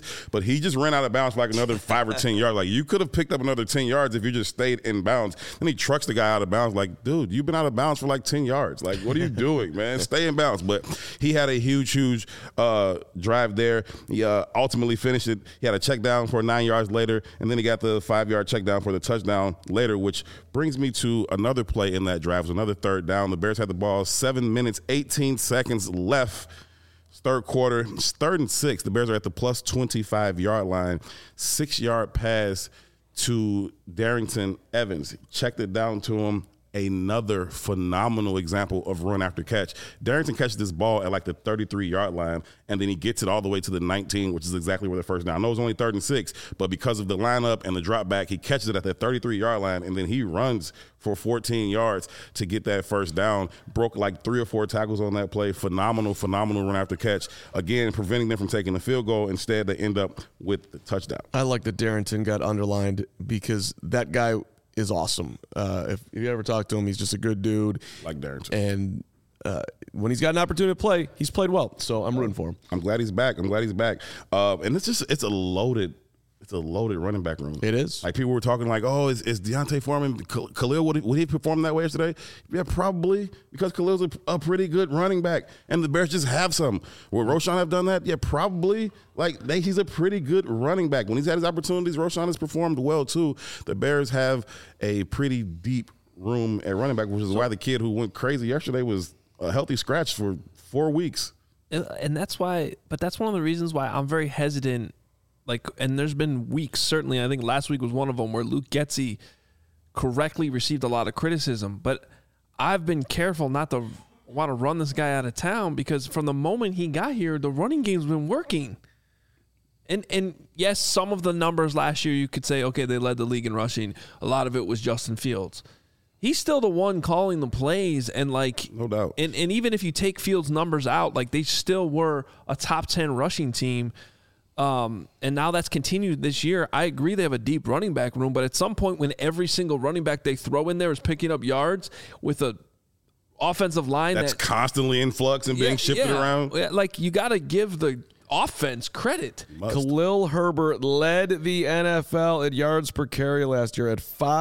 plays, but he just ran out of bounds for like another 5 or 10 yards. Like, you could have picked up another 10 yards if you just stayed in bounds. Then he trucks the guy out of bounds. Like, dude, you've been out of bounds for like 10 yards. Like, what are you doing, man? Stay in bounds. But he had a huge drive there. He ultimately finished it. He had a check down for 9 yards later, and then he got the 5-yard check down for the touchdown later, which brings me to another play in that drive. It was another third down. The Bears had the ball, 7 minutes, 18 seconds left. Third quarter, it's 3rd and 6. The Bears are at the plus 25-yard line. 6-yard pass to Darrynton Evans. Checked it down to him. Another phenomenal example of run after catch. Darrynton catches this ball at like the 33-yard line, and then he gets it all the way to the 19, which is exactly where the first down. I know it was only 3rd and 6, but because of the lineup and the drop back, he catches it at that 33-yard line, and then he runs for 14 yards to get that first down. Broke like 3 or 4 tackles on that play. Phenomenal run after catch. Again, preventing them from taking the field goal. Instead, they end up with the touchdown. I like that Darrynton got underlined because that guy is awesome. If you ever talk to him, he's just a good dude. Like Darrynton. And when he's got an opportunity to play, he's played well. So I'm rooting for him. I'm glad he's back. And it's a loaded running back room. It is. Like, people were talking like, oh, is Deontay Foreman, Khalil, would he perform that way yesterday? Yeah, probably, because Khalil's a pretty good running back, and the Bears just have some. Would Roschon have done that? Yeah, probably. Like, he's a pretty good running back. When he's had his opportunities, Roschon has performed well, too. The Bears have a pretty deep room at running back, which is why the kid who went crazy yesterday was a healthy scratch for 4 weeks. And that's why, but that's one of the reasons why I'm very hesitant. Like, and there's been weeks, certainly, I think last week was one of them, where Luke Getsy correctly received a lot of criticism. But I've been careful not to want to run this guy out of town, because from the moment he got here, the running game's been working. And yes, some of the numbers last year, you could say, okay, they led the league in rushing. A lot of it was Justin Fields. He's still the one calling the plays, and like, no doubt. And even if you take Fields' numbers out, like, they still were a top 10 rushing team. And now that's continued this year. I agree they have a deep running back room, but at some point when every single running back they throw in there is picking up yards with a offensive line that's constantly in flux and being shifted around. Yeah, like, you got to give the offense credit. Khalil Herbert led the NFL at yards per carry last year at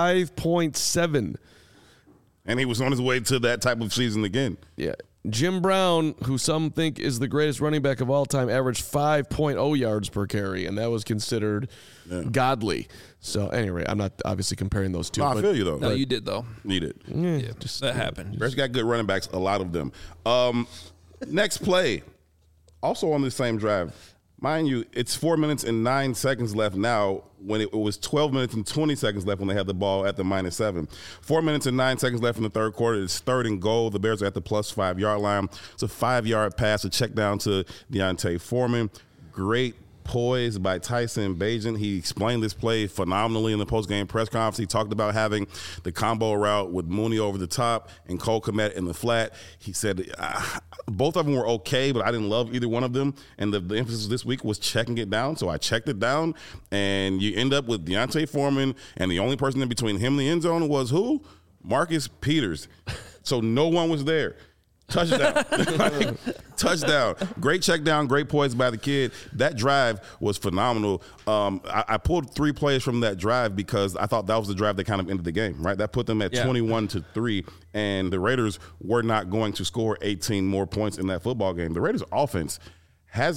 5.7. And he was on his way to that type of season again. Yeah. Jim Brown, who some think is the greatest running back of all time, averaged 5.0 yards per carry, and that was considered godly. So, anyway, I'm not obviously comparing those two. No, I feel you, though. No, you did, though. You did. Yeah, that happened. Bears got good running backs, a lot of them. Next play, also on this same drive. Mind you, it's 4 minutes and 9 seconds left now, when it was 12 minutes and 20 seconds left when they had the ball at the -7. 4 minutes and 9 seconds left in the third quarter. It's 3rd and goal. The Bears are at the plus 5-yard line. It's a 5-yard pass, a check down to Deontay Foreman. Great poise by Tyson Bagent. He explained this play phenomenally in the post-game press conference. He talked about having the combo route with Mooney over the top and Cole Kmet in the flat. He said both of them were okay, but I didn't love either one of them. And the emphasis this week was checking it down. So I checked it down, and you end up with Deontay Foreman, and the only person in between him and the end zone was who? Marcus Peters. So no one was there. Touchdown. Touchdown. Great check down, great poise by the kid. That drive was phenomenal. I pulled 3 plays from that drive because I thought that was the drive that kind of ended the game, right? That put them at 21-3, and the Raiders were not going to score 18 more points in that football game. The Raiders' offense has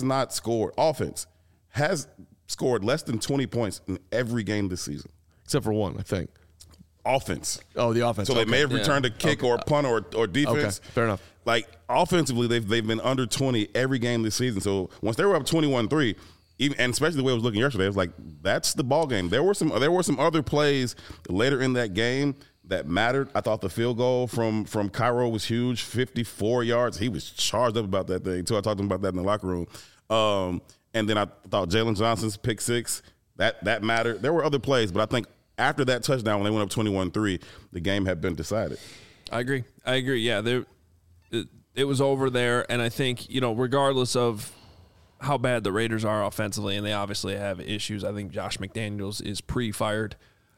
scored less than 20 points in every game this season. Except for one, I think. Offense. Oh, the offense. So they may have returned a kick or a punt or defense. Okay, fair enough. Like, offensively, they've been under 20 every game this season. So once they were up 21-3, and especially the way it was looking yesterday, it was like, that's the ball game. There were some other plays later in that game that mattered. I thought the field goal from Cairo was huge, 54 yards. He was charged up about that thing too. I talked to him about that in the locker room. And then I thought Jalen Johnson's pick 6 that mattered. There were other plays, but I think after that touchdown, when they went up 21-3, the game had been decided. I agree. Yeah, it was over there, and I think, regardless of how bad the Raiders are offensively, and they obviously have issues, I think Josh McDaniels is pre-fired.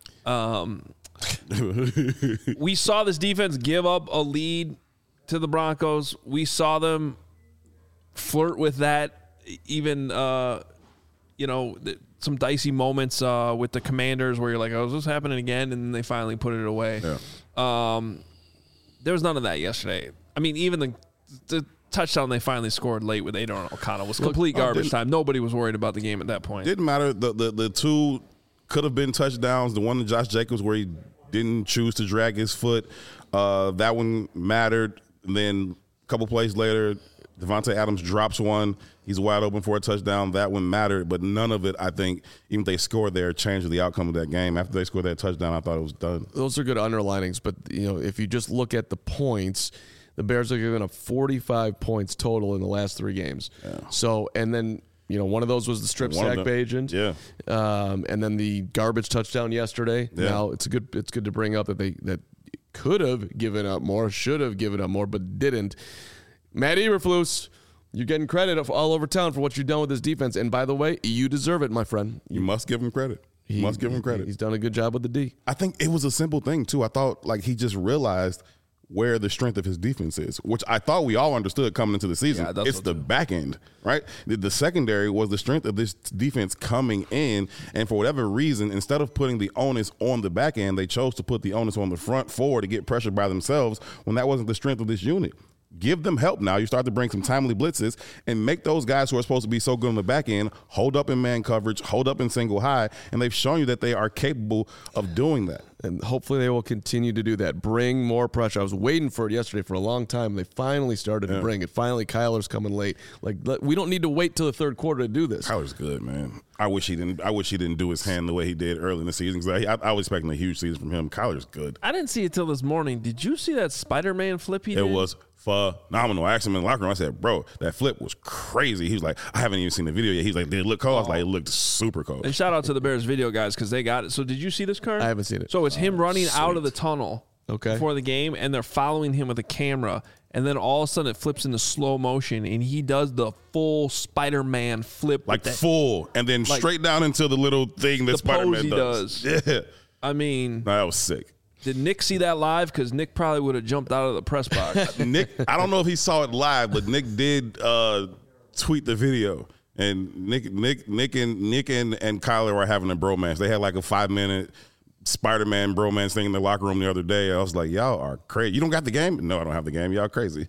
We saw this defense give up a lead to the Broncos. We saw them flirt with that even some dicey moments with the Commanders where you're like, oh, is this happening again? And then they finally put it away. Yeah. There was none of that yesterday. I mean, even the touchdown they finally scored late with Aidan O'Connell was complete garbage time. Nobody was worried about the game at that point. Didn't matter. The two could have been touchdowns. The one to Josh Jacobs where he didn't choose to drag his foot, that one mattered. And then a couple plays later, Devontae Adams drops one. He's wide open for a touchdown. That one mattered, but none of it, I think, even if they scored there, changed the outcome of that game. After they scored that touchdown, I thought it was done. Those are good underlinings, but if you just look at the points, the Bears are giving up 45 points total in the last 3 games. Yeah. So, and then one of those was the strip sack by Agent. Yeah. And then the garbage touchdown yesterday. Yeah. Now it's good to bring up that could have given up more, should have given up more, but didn't. Matt Eberflus, you're getting credit all over town for what you've done with this defense. And by the way, you deserve it, my friend. You must give him credit. Must give him credit. He's done a good job with the D. I think it was a simple thing, too. I thought he just realized where the strength of his defense is, which I thought we all understood coming into the season. Yeah, it's the back end, right? The secondary was the strength of this defense coming in, and for whatever reason, instead of putting the onus on the back end, they chose to put the onus on the front four to get pressured by themselves when that wasn't the strength of this unit. Give them help now. You start to bring some timely blitzes and make those guys who are supposed to be so good on the back end hold up in man coverage, hold up in single high, and they've shown you that they are capable of doing that. And hopefully they will continue to do that. Bring more pressure. I was waiting for it yesterday for a long time. They finally started to bring it. Finally, Kyler's coming late. We don't need to wait till the third quarter to do this. Kyler's good, man. I wish he didn't do his hand the way he did early in the season. I was expecting a huge season from him. Kyler's good. I didn't see it till this morning. Did you see that Spider-Man flip he did? It was phenomenal. I asked him in the locker room. I said, bro, that flip was crazy. He was like, I haven't even seen the video yet. He's like, did it look cold? I was like, it looked super cold. And shout out to the Bears video guys because they got it. So did you see this, Kern? I haven't seen it. So it's him running out of the tunnel before the game, and they're following him with a camera. And then all of a sudden it flips into slow motion, and he does the full Spider-Man flip. Full, and then straight down into the little thing that Spider-Man does. Yeah. I mean. That was sick. Did Nick see that live? Because Nick probably would have jumped out of the press box. Nick, I don't know if he saw it live, but Nick did tweet the video. And Nick and Kyler were having a bromance. They had like a 5-minute Spider-Man bromance thing in the locker room the other day. I was like, y'all are crazy. You don't got the game? No, I don't have the game. Y'all crazy.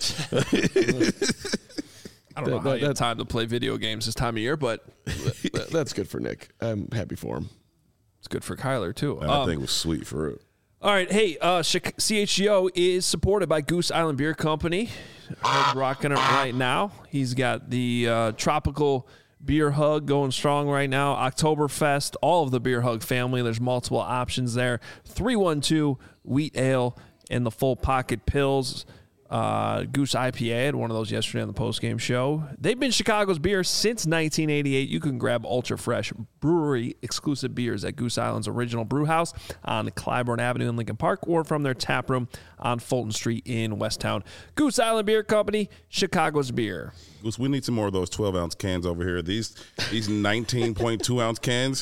I don't know how you have time to play video games this time of year, but that's good for Nick. I'm happy for him. It's good for Kyler, too. I think it was sweet for real. All right, hey, CHGO is supported by Goose Island Beer Company. He's rocking it right now. He's got the tropical beer hug going strong right now. Oktoberfest, all of the beer hug family. There's multiple options there. 312 wheat ale and the full pocket pills. Goose IPA, I had one of those yesterday on the postgame show. They've been Chicago's beer since 1988. You can grab ultra fresh brewery exclusive beers at Goose Island's original brew house on Clybourne Avenue in Lincoln Park, or from their tap room on Fulton Street in Westtown. Goose Island Beer Company, Chicago's beer. Goose, we need some more of those 12-ounce cans over here. These 19.2-ounce cans,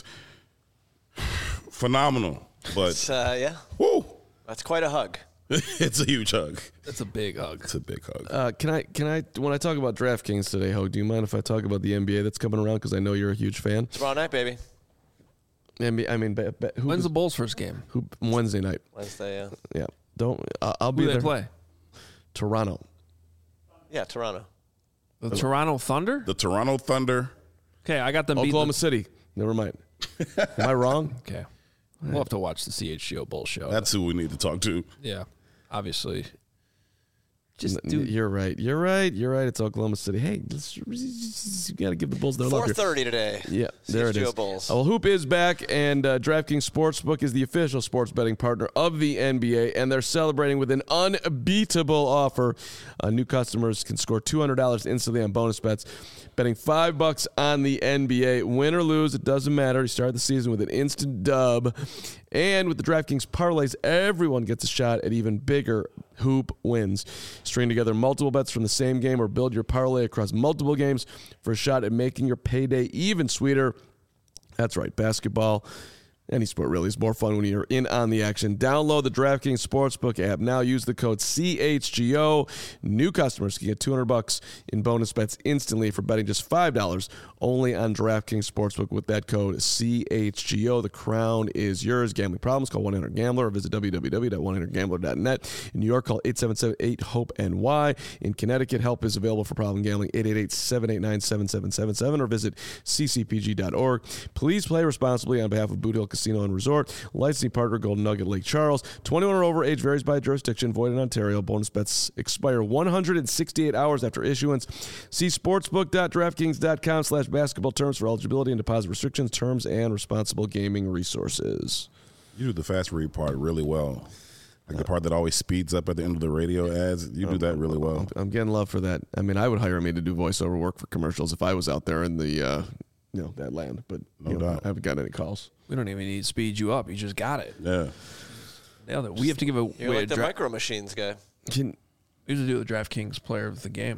phenomenal. But woo, that's quite a hug. It's a huge hug. It's a big hug. It's a big hug. Can I? When I talk about DraftKings today, Ho, do you mind if I talk about the NBA that's coming around? Because I know you're a huge fan. Tomorrow night, baby. NBA, I mean, when's the Bulls' first game? Wednesday night. Wednesday, yeah. Yeah. I'll be there. Who they play? Toronto. Yeah, Toronto. The Toronto Thunder? The Toronto Thunder. Okay, I got them. Oklahoma City. Never mind. Am I wrong? Okay. We'll have to watch the CHGO Bull show. That's who we need to talk to. Yeah, obviously. You're right. It's Oklahoma City. Hey, you got to give the Bulls their love. 4:30 today. Yeah, there it is. Bulls. Well, Hoop is back, and DraftKings Sportsbook is the official sports betting partner of the NBA, and they're celebrating with an unbeatable offer. New customers can score $200 instantly on bonus bets. Betting $5 on the NBA. Win or lose, it doesn't matter. You start the season with an instant dub. And with the DraftKings parlays, everyone gets a shot at even bigger hoop wins. String together multiple bets from the same game or build your parlay across multiple games for a shot at making your payday even sweeter. That's right, basketball. Any sport really is more fun when you're in on the action. Download the DraftKings Sportsbook app now. Use the code CHGO. New customers can get $200 in bonus bets instantly for betting just $5 only on DraftKings Sportsbook with that code CHGO. The crown is yours. Gambling problems? Call 1-800-GAMBLER or visit www.1-800-GAMBLER.net. In New York, call 877-8-HOPE-NY. In Connecticut, help is available for problem gambling. 888-789-7777 or visit ccpg.org. Please play responsibly on behalf of Boot Hill Casino and Resort. Licensing partner Golden Nugget Lake Charles. 21 or over. Age varies by jurisdiction. Void in Ontario. Bonus bets expire 168 hours after issuance. See sportsbook.draftkings.com/basketball terms for eligibility and deposit restrictions, terms, and responsible gaming resources. You do the fast read part really well. Like the part that always speeds up at the end of the radio ads. You do that really well. I'm getting love for that. I mean, I would hire me to do voiceover work for commercials if I was out there in the that land, but No doubt. I haven't got any calls. We don't even need to speed you up. You just got it. Yeah. Nailed it. We have to give You're away like the Micro Machines guy. we have to do the DraftKings player of the game.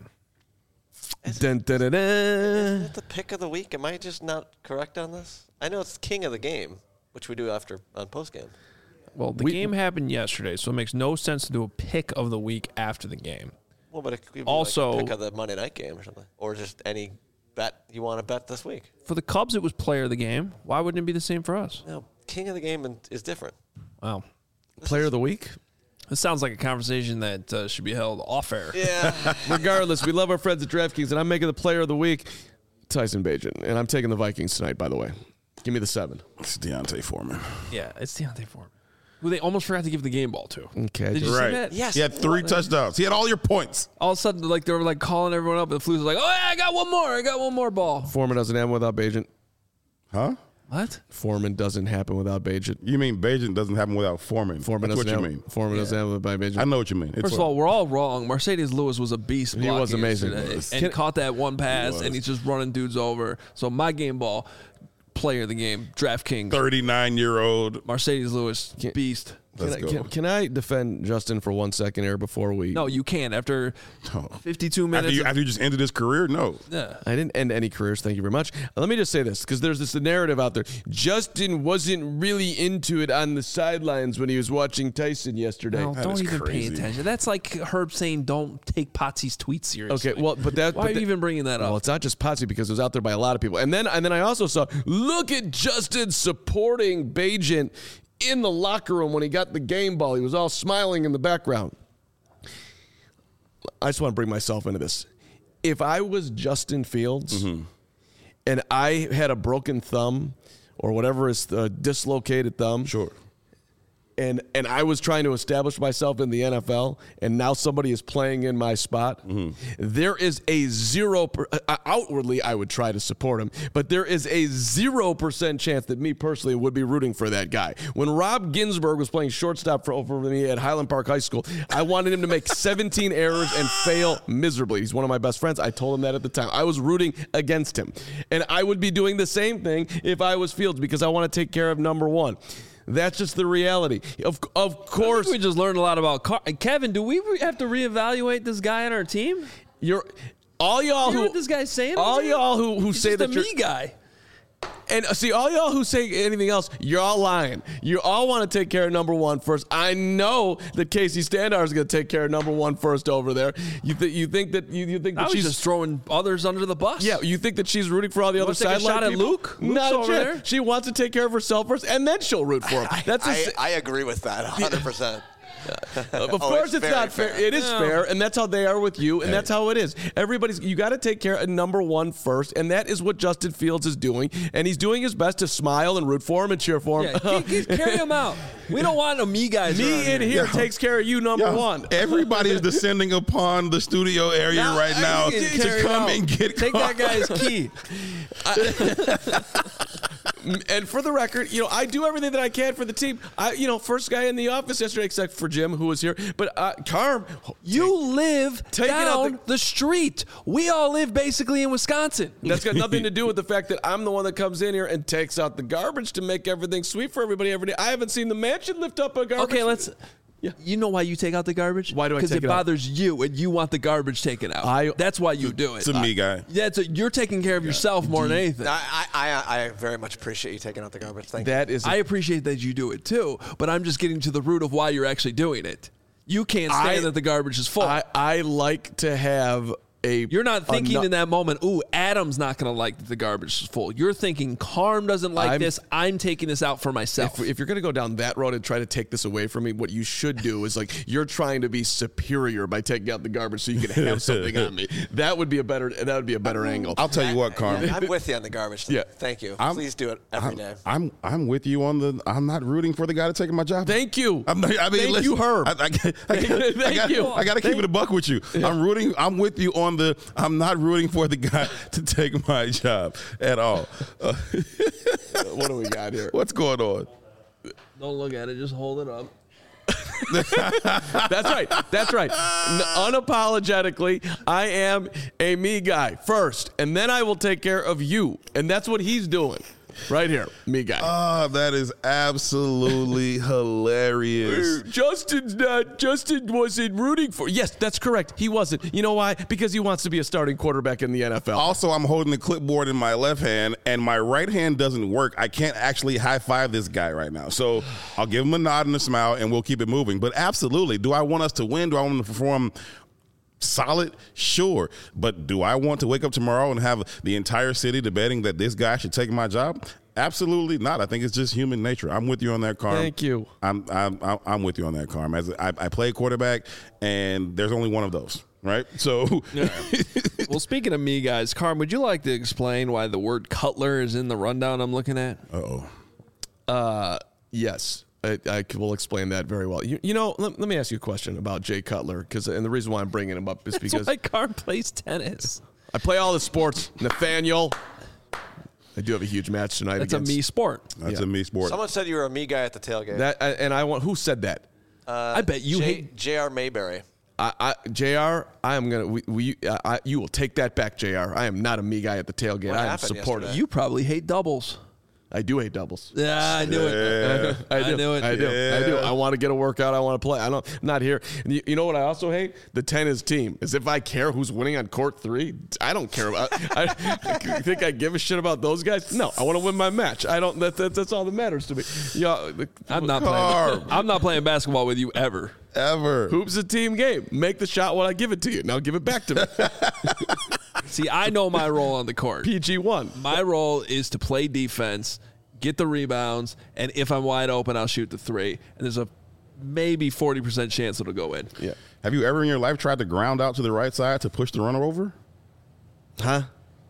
Dun, dun, dun, dun. Isn't it the pick of the week? Am I just not correct on this? I know it's king of the game, which we do after on post game. Well, the game happened yesterday, so it makes no sense to do a pick of the week after the game. Well, but it could be Also- like a pick of the Monday night game or something, or just any bet you want to bet this week. For the Cubs, it was player of the game. Why wouldn't it be the same for us? No, king of the game is different. Wow. Player of the week? This sounds like a conversation that should be held off air. Yeah. Regardless, we love our friends at DraftKings, and I'm making the player of the week Tyson Bagent, and I'm taking the Vikings tonight, by the way. Give me the 7. It's Deontay Foreman. Yeah, it's Deontay Foreman, who they almost forgot to give the game ball to. Okay. Did you see Right. that? Yes. He had 3 touchdowns. He had all your points. All of a sudden, like they were like calling everyone up, and the Flu's like, "Oh yeah, I got one more. I got one more ball." Foreman doesn't happen without Bagent. Huh? What? Foreman doesn't happen without Bagent. You mean Bagent doesn't happen without Foreman? Foreman That's doesn't what you happen. mean. Foreman doesn't happen without Bagent. I know what you mean. It's First of all, we're all wrong. Mercedes Lewis was a beast. He was blocking amazing. yesterday, He was. and caught that one pass, was. and he's just running dudes over. So my game ball, player of the game, DraftKings, 39-year-old. Mercedes Lewis, beast. Let's go. Can I defend Justin for 1 second here before we... No, you can't. After Oh. 52 After minutes. you just ended his career? No. Yeah. I didn't end any careers. Thank you very much. Let me just say this, because there's this narrative out there. Justin wasn't really into it on the sidelines when he was watching Tyson yesterday. No, don't is even crazy. pay attention. That's like Herb saying, "Don't take Potsy's tweets seriously." Okay, well, but that... Why but are you even bringing that up? Well, it's not just Potsy, because it was out there by a lot of people. And then I also saw, look at Justin supporting Bagent in the locker room when he got the game ball. He was all smiling in the background. I just want to bring myself into this. If I was Justin Fields and I had a broken thumb or whatever is a dislocated thumb, Sure. and I was trying to establish myself in the NFL, and now somebody is playing in my spot, there is a 0%, outwardly I would try to support him, but there is a 0% chance that me personally would be rooting for that guy. When Rob Ginsburg was playing shortstop for me at Highland Park High School, I wanted him to make 17 errors and fail miserably. He's one of my best friends. I told him that at the time. I was rooting against him. And I would be doing the same thing if I was Fields, because I want to take care of number one. That's just the reality. Of course, we just learned a lot about Kevin. Do we have to reevaluate this guy on our team? all y'all You know who what this guy's saying? all y'all who He's say just that a you're me guy. and see all y'all who say anything else, you're all lying. You all want to take care of number one first. I know that Casey Standar is going to take care of number one first over there. You think that Now he's just throwing others under the bus. Yeah, you think that she's rooting for all the other wanna take a sideline shot at people? Luke? Luke's Not a over chance. there. She wants to take care of herself first, and then she'll root for him. I agree with that 100%. Of course, it's very not fair. It is fair, and that's how they are with you, and that's how it is. You got to take care of number one first, and that is what Justin Fields is doing, and he's doing his best to smile and root for him and cheer for him. Yeah, carry him out. We don't want no me guys. Me around in here takes care of you, number one. Everybody is descending upon the studio area right now you can carry to come him out. and get Take that guy's key. And for the record, I do everything that I can for the team. First guy in the office yesterday, except for Jim, who was here. But Carm, You live Taking out down the street. We all live basically in Wisconsin. that's got nothing to do with the fact that I'm the one that comes in here and takes out the garbage to make everything sweet for everybody every day. I haven't seen the mansion lift up a garbage. Okay, let's Yeah. You know why you take out the garbage? Why do I take Because it it out? bothers you, and you want the garbage taken out. That's why you do it. It's a me guy. You're taking care of yourself more than anything. I very much appreciate you taking out the garbage. Thank you. That is. I appreciate that you do it too, but I'm just getting to the root of why you're actually doing it. You can't stand that the garbage is full. I like to have You're not thinking in that moment, ooh, Adam's not going to like that the garbage is full. You're thinking, Carm doesn't like this. I'm taking this out for myself. If you're going to go down that road and try to take this away from me, what you should do is you're trying to be superior by taking out the garbage so you can have something on me. That would be a better angle. I'll tell you what, Carm. I'm with you on the garbage thing. Yeah. Thank you. Please do it every day. I'm with you on the. I'm not rooting for the guy to take my job. Thank you. Thank you, Herb. I got to keep it a buck with you. I'm with you on the. I'm not rooting for the guy to take my job at all. What do we got here? What's going on? Don't look at it. Just hold it up. That's right. Unapologetically, I am a me guy first, and then I will take care of you. And that's what he's doing. Right here, me guy. Oh, that is absolutely hilarious. Justin wasn't rooting for. Yes, that's correct. He wasn't. You know why? Because he wants to be a starting quarterback in the NFL. Also, I'm holding the clipboard in my left hand, and my right hand doesn't work. I can't actually high five this guy right now. So I'll give him a nod and a smile, and we'll keep it moving. But absolutely, do I want us to win? Do I want to perform solid? Sure. But do I want to wake up tomorrow and have the entire city debating that this guy should take my job? Absolutely not. I think it's just human nature. I'm with you on that, Carm. Thank you. I'm with you on that, Carm. As I play quarterback, and there's only one of those, right? So, Well, speaking of me guys, Carm, would you like to explain why the word Cutler is in the rundown I'm looking at? Yes. I will explain that very well. You know, let me ask you a question about Jay Cutler, and the reason why I'm bringing him up is because That's why Carm plays tennis. I play all the sports. Nathaniel, I do have a huge match tonight. That's a me sport. That's a me sport. Someone said you were a me guy at the tailgate. Who said that? I bet you hate J.R. Mayberry. JR, I am gonna. You will take that back, JR. I am not a me guy at the tailgate. I am supportive. You probably hate doubles. I do hate doubles. Yeah, I knew it. I knew it. I do. I want to get a workout. I want to play. I'm not here. You know what I also hate? The tennis team. As if I care who's winning on court 3. I don't care about. I think I give a shit about those guys? No, I want to win my match. I don't. That's all that matters to me. I'm not playing. I'm not playing basketball with you ever. Hoop's a team game. Make the shot when I give it to you. Now give it back to me. See, I know my role on the court. PG1. My role is to play defense, get the rebounds, and if I'm wide open, I'll shoot the 3. And there's a maybe 40% chance it'll go in. Yeah. Have you ever in your life tried to ground out to the right side to push the runner over? Huh?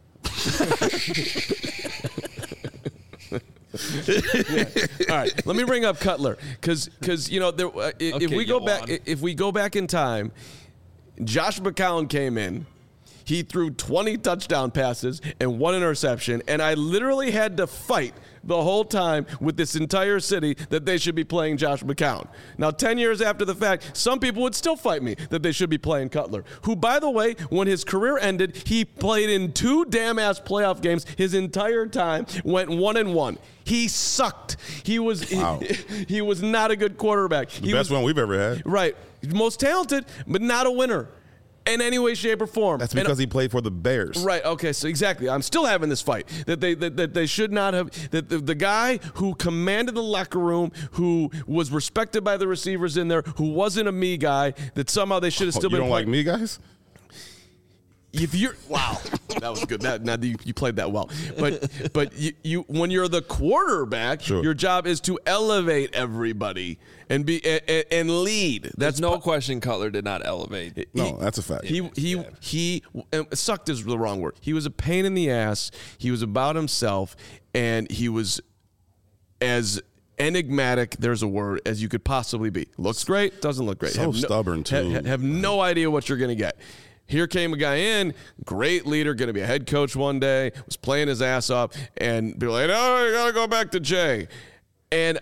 All right, let me bring up Cutler because you know if we go back in time, Josh McCown came in. He threw 20 touchdown passes and 1 interception, and I literally had to fight the whole time with this entire city that they should be playing Josh McCown. Now, 10 years after the fact, some people would still fight me that they should be playing Cutler, who, by the way, when his career ended, he played in 2 damn-ass playoff games his entire time, went 1-1. He sucked. He was not a good quarterback. The best one we've ever had. Right. Most talented, but not a winner. In any way, shape, or form. That's because he played for the Bears. Right. Okay. So exactly, I'm still having this fight that they should not have. That the guy who commanded the locker room, who was respected by the receivers in there, who wasn't a me guy, that somehow they should have still been. You don't like me guys? If you're that was good. Now you played that well. But you when you're the quarterback, sure. Your job is to elevate everybody and be and lead. That's no question. Cutler did not elevate. No, that's a fact. He sucked is the wrong word. He was a pain in the ass. He was about himself, and he was as enigmatic, there's a word, as you could possibly be. Looks great, doesn't look great. So stubborn too. Have no idea what you're going to get. Here came a guy in, great leader, going to be a head coach one day, was playing his ass off, and be like, "Oh, you got to go back to Jay." And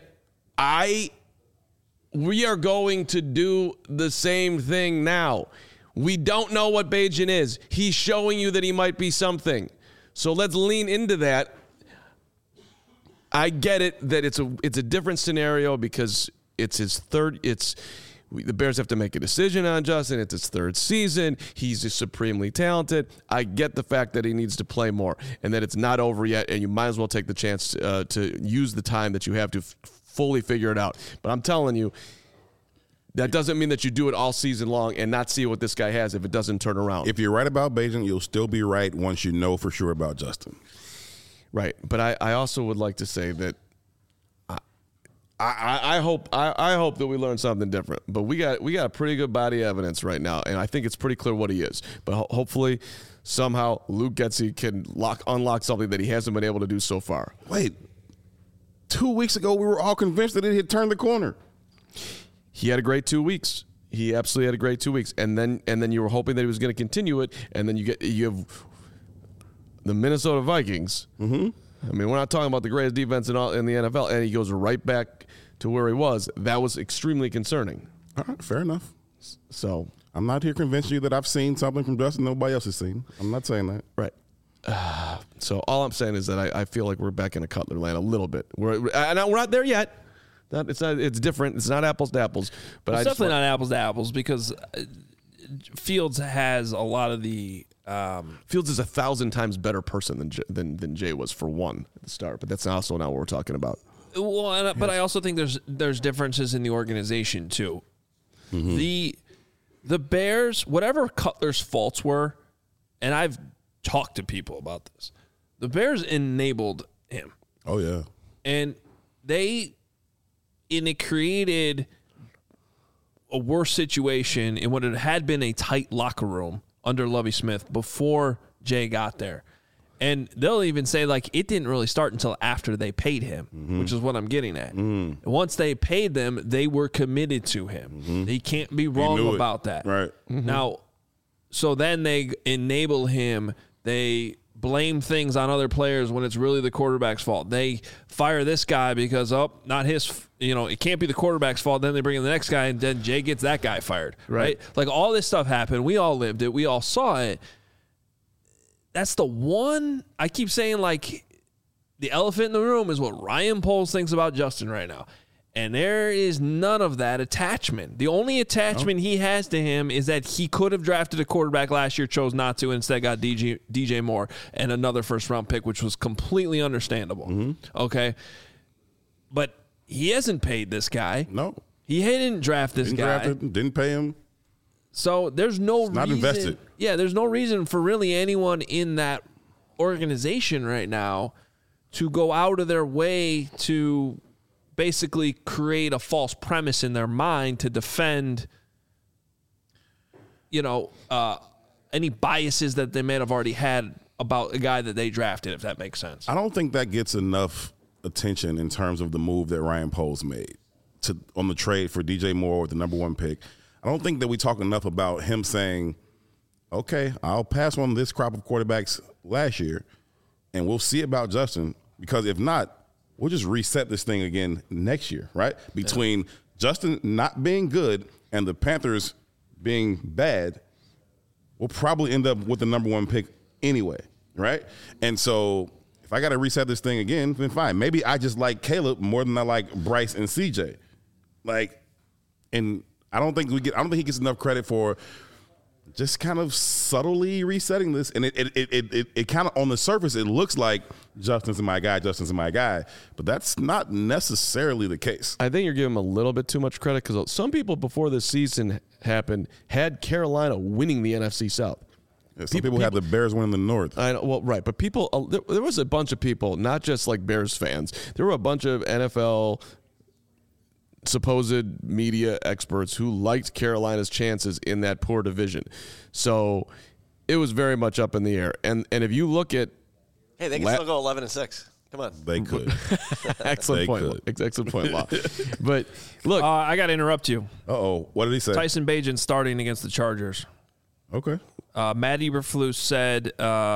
we are going to do the same thing now. We don't know what Bagent is. He's showing you that he might be something. So let's lean into that. I get it that it's a different scenario because it's his third. the Bears have to make a decision on Justin. It's his third season. He's just supremely talented. I get the fact that he needs to play more and that it's not over yet, and you might as well take the chance to use the time that you have to fully figure it out. But I'm telling you, that doesn't mean that you do it all season long and not see what this guy has if it doesn't turn around. If you're right about Bagent, you'll still be right once you know for sure about Justin. Right. But I also would like to say that I hope that we learn something different. But we got a pretty good body of evidence right now, and I think it's pretty clear what he is. But hopefully, somehow Luke Getsy can unlock something that he hasn't been able to do so far. Wait, 2 weeks ago we were all convinced that it had turned the corner. He had a great 2 weeks. He absolutely had a great 2 weeks, and then you were hoping that he was going to continue it, and then you have the Minnesota Vikings. Mm-hmm. I mean, we're not talking about the greatest defense in the NFL, and he goes right back to where he was. That was extremely concerning. All right, fair enough. So I'm not here convincing you that I've seen something from Justin nobody else has seen. I'm not saying that. Right. So all I'm saying is that I feel like we're back in a Cutler land a little bit. We're not there yet. It's different. It's not apples to apples. But it's definitely not apples to apples because Fields has a lot of the. Fields is 1,000 times better person than Jay was for one at the start. But that's also not what we're talking about. Well, but I also think there's differences in the organization too. Mm-hmm. The Bears, whatever Cutler's faults were, and I've talked to people about this, the Bears enabled him. Oh yeah, and it created a worse situation in what it had been a tight locker room under Lovie Smith before Jay got there. And they'll even say, like, it didn't really start until after they paid him, which is what I'm getting at. And once they paid them, they were committed to him. He can't be wrong about that. Right. Now, so then they enable him. They blame things on other players when it's really the quarterback's fault. They fire this guy because, not his, it can't be the quarterback's fault. Then they bring in the next guy, and then Jay gets that guy fired. Right? Like, all this stuff happened. We all lived it. We all saw it. That's the one I keep saying, like, the elephant in the room is what Ryan Poles thinks about Justin right now. And there is none of that attachment. The only attachment he has to him is that he could have drafted a quarterback last year, chose not to, and instead got DJ Moore and another first-round pick, which was completely understandable. Okay? But he hasn't paid this guy. No. He didn't draft this guy. Didn't pay him. So there's no reason. Not invested. Yeah, there's no reason for really anyone in that organization right now to go out of their way to basically create a false premise in their mind to defend, any biases that they may have already had about a guy that they drafted, if that makes sense. I don't think that gets enough attention in terms of the move that Ryan Poles made on the trade for DJ Moore with the number 1 pick. I don't think that we talk enough about him saying, okay, I'll pass on this crop of quarterbacks last year, and we'll see about Justin, because if not, we'll just reset this thing again next year, right? Between Justin not being good and the Panthers being bad, we'll probably end up with the number 1 pick anyway, right? And so if I got to reset this thing again, then fine. Maybe I just like Caleb more than I like Bryce and CJ. And I don't think he gets enough credit for just kind of subtly resetting this. And it kind of, on the surface, it looks like Justin's my guy, but that's not necessarily the case. I think you're giving him a little bit too much credit because some people before this season happened had Carolina winning the NFC South. Yeah, some people had the Bears winning the North. I know, well, right, but people, there was a bunch of people, not just like Bears fans. There were a bunch of NFL supposed media experts who liked Carolina's chances in that poor division. So it was very much up in the air. And if you look at hey, they can still go 11-6. Come on. They could. Excellent point. Excellent point, Law. But look, I got to interrupt you. Uh-oh. What did he say? Tyson Bagent starting against the Chargers. Okay. Matt Eberflus said,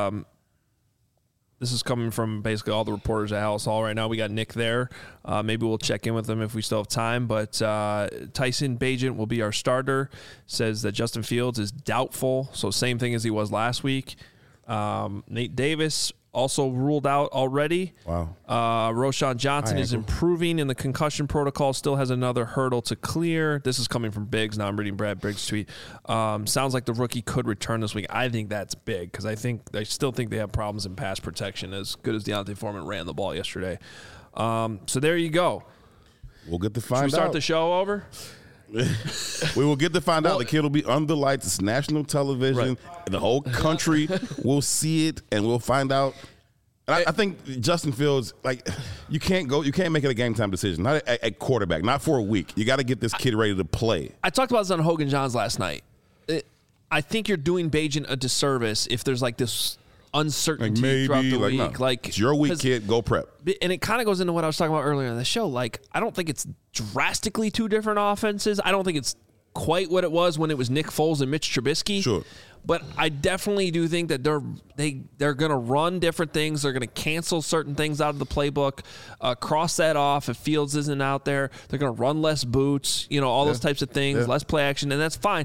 this is coming from basically all the reporters at House Hall right now. We got Nick there. Maybe we'll check in with them if we still have time. But Tyson Bagent will be our starter. Says that Justin Fields is doubtful. So same thing as he was last week. Nate Davis also ruled out already. Wow. Roshan Johnson is improving in the concussion protocol, still has another hurdle to clear. This is coming from Biggs. Now I'm reading Brad Briggs' tweet. Sounds like the rookie could return this week. I think that's big because I still think they have problems in pass protection as good as Deontay Foreman ran the ball yesterday. So there you go. We'll get to find out. Should we start the show over? We will get to find out. The kid will be under lights. It's national television. Right. The whole country will see it, and we'll find out. And I think Justin Fields, like, you can't make it a game time decision. Not at quarterback. Not for a week. You got to get this kid ready to play. I talked about this on Hogan Johns last night. I think you're doing Bagent a disservice if there's like this uncertainty throughout the week. No. It's your week, kid. Go prep. And it kind of goes into what I was talking about earlier in the show. Like, I don't think it's drastically two different offenses. I don't think it's quite what it was when it was Nick Foles and Mitch Trubisky. Sure. But I definitely do think that they're going to run different things. They're going to cancel certain things out of the playbook, cross that off if Fields isn't out there. They're going to run less boots, all those types of things, less play action, and that's fine.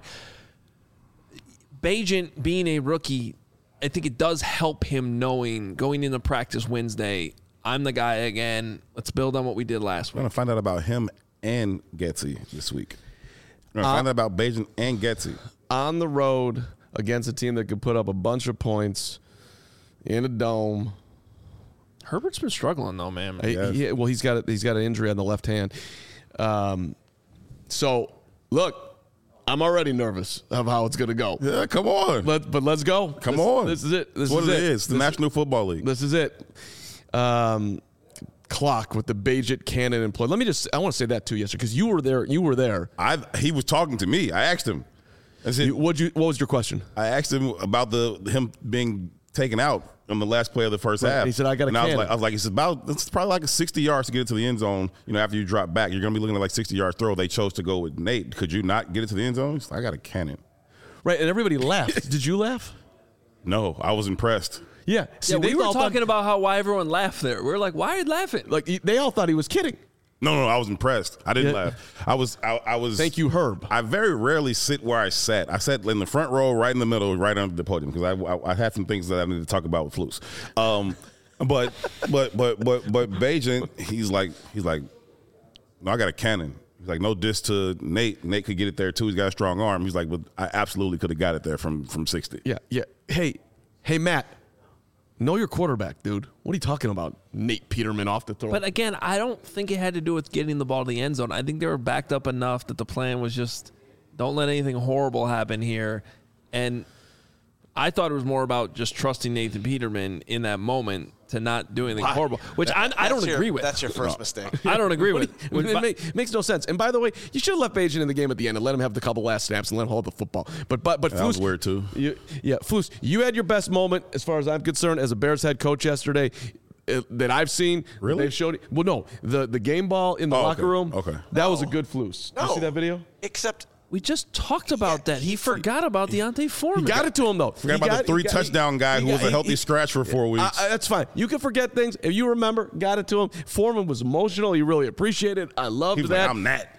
Bagent being a rookie, I think it does help him knowing going into practice Wednesday, I'm the guy again. Let's build on what we did last We're week. going to find out about him and Getsy this week. We're going to find out about Bagent and Getsy. On the road against a team that could put up a bunch of points in a dome. Herbert's been struggling though, man. He's got an injury on the left hand. So, look, I'm already nervous of how it's going to go. Yeah, come on. But let's go. Come on. This is it. This is what it is. It's the National Football League. This is it. Clock with the Bagent cannon in play. I want to say that too yesterday because you were there. He was talking to me. I asked him. I said, what was your question? I asked him about him being taken out on the last play of the first half. He said, I got a cannon. I was like, it's probably like 60 yards to get it to the end zone. After you drop back, you're going to be looking at like 60 yards throw. They chose to go with Nate. Could you not get it to the end zone? He's like, I got a cannon. Right, and everybody laughed. Did you laugh? No, I was impressed. Yeah. See, we were talking about why everyone laughed there. We were like, why are you laughing? Like, they all thought he was kidding. No, I was impressed. I didn't laugh. I was. Thank you, Herb. I very rarely sit where I sat. I sat in the front row, right in the middle, right under the podium, because I had some things that I needed to talk about with Flus. But Bagent, he's like, no, I got a cannon. He's like, no diss to Nate. Nate could get it there too. He's got a strong arm. He's like, but I absolutely could have got it there from 60. Yeah. Hey, Matt. Know your quarterback, dude. What are you talking about? Nate Peterman off the throw. But again, I don't think it had to do with getting the ball to the end zone. I think they were backed up enough that the plan was just don't let anything horrible happen here. And I thought it was more about just trusting Nathan Peterman in that moment to not do anything horrible, which I don't agree with. That's your first mistake. I don't agree with. It makes no sense. And by the way, you should have left Bagent in the game at the end and let him have the couple last snaps and let him hold the football. But that Flus, was weird too. Flus, you had your best moment as far as I'm concerned as a Bears head coach yesterday that I've seen. Really? They've showed. Well, no, the game ball in the locker room. Okay. That was a good Flus. Did you see that video? Except We just talked about that. He forgot about Deontay Foreman. He got it to him, though. Forgot about the 3 touchdown guy who was a healthy scratch for 4 weeks. That's fine. You can forget things. If you remember, got it to him. Foreman was emotional. He really appreciated it. I loved He was that. like, I'm that.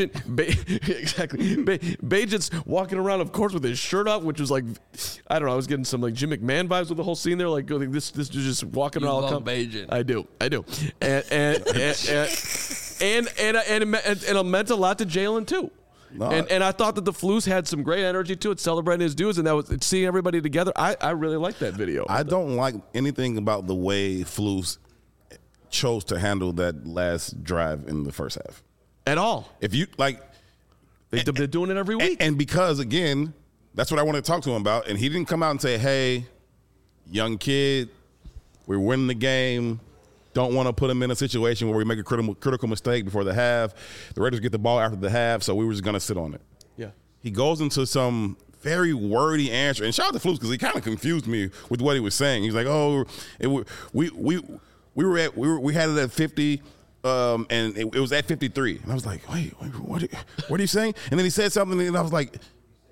Exactly. Bagent's walking around, of course, with his shirt up, which was like, I don't know. I was getting some like Jim McMahon vibes with the whole scene there. Like this dude just walking around. love Bagent. I do. And it meant a lot to Jalen too. No. And I thought that the Flus had some great energy to it, celebrating his dudes, and that was seeing everybody together. I really liked that video. I don't like anything about the way Flus chose to handle that last drive in the first half at all. If you like, They're doing it every week. and because again, that's what I wanted to talk to him about, and he didn't come out and say, "Hey, young kid, we're winning the game. Don't want to put him in a situation where we make a critical mistake before the half. The Raiders get the ball after the half, so we were just going to sit on it." Yeah. He goes into some very wordy answer, and shout out to Flus because he kind of confused me with what he was saying. He's like, "Oh, we had it at 50, and it was at 53," and I was like, "Wait, what are you saying?" And then he said something, and I was like,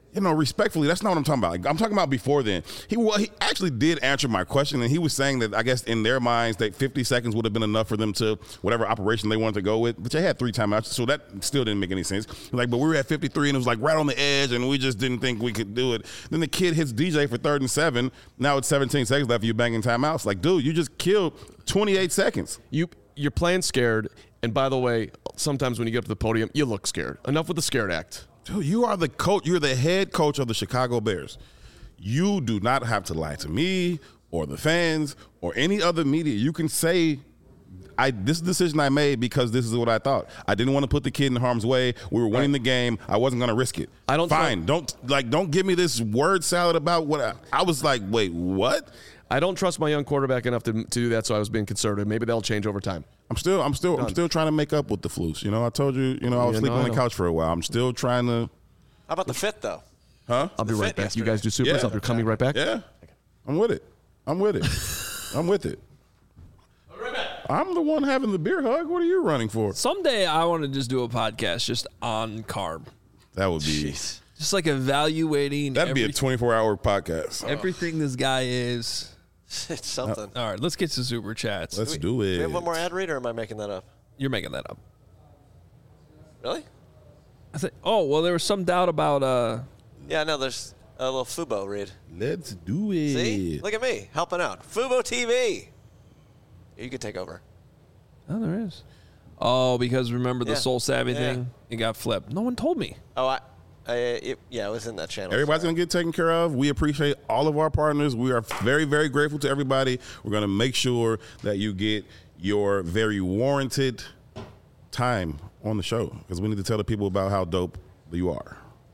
respectfully, that's not what I'm talking about. Like, I'm talking about before then. He actually did answer my question, and he was saying that I guess in their minds that 50 seconds would have been enough for them to whatever operation they wanted to go with. But they had 3 timeouts, so that still didn't make any sense. Like, but we were at 53, and it was like right on the edge, and we just didn't think we could do it. Then the kid hits DJ for 3rd and 7. Now it's 17 seconds left. You banging timeouts. Like, dude, you just killed 28 seconds. You're playing scared, and by the way, sometimes when you get up to the podium, you look scared. Enough with the scared act. Dude, you are the coach. You're the head coach of the Chicago Bears. You do not have to lie to me or the fans or any other media. You can say, this is a decision I made because this is what I thought. I didn't want to put the kid in harm's way. We were winning the game. I wasn't going to risk it. Fine. Don't give me this word salad about what I was like, wait, what? I don't trust my young quarterback enough to do that, so I was being conservative. Maybe that'll change over time. I'm still trying to make up with the flus. I told you, I was sleeping on the couch for a while. I'm still trying to. How about the fit though? Huh? I'll be right back. You guys do supers. I'll be coming right back. Yeah, I'm with it. I'm with it. I'm the one having the beer hug. What are you running for? Someday I want to just do a podcast just on carb. That would be. Just like evaluating. That'd be a 24-hour podcast. Everything this guy is. It's something. All right, let's get to super chats. Let's do it. Do we have one more ad read, or am I making that up? You're making that up. Really? There was some doubt about. Yeah, no, there's a little Fubo read. Let's do it. See? Look at me, helping out. Fubo TV. You could take over. Oh, there is. Oh, because remember the Soul Savvy thing? It got flipped. No one told me. Oh, it was in that channel. Everybody's going to get taken care of. We appreciate all of our partners. We are very, very grateful to everybody. We're going to make sure that you get your very warranted time on the show because we need to tell the people about how dope you are.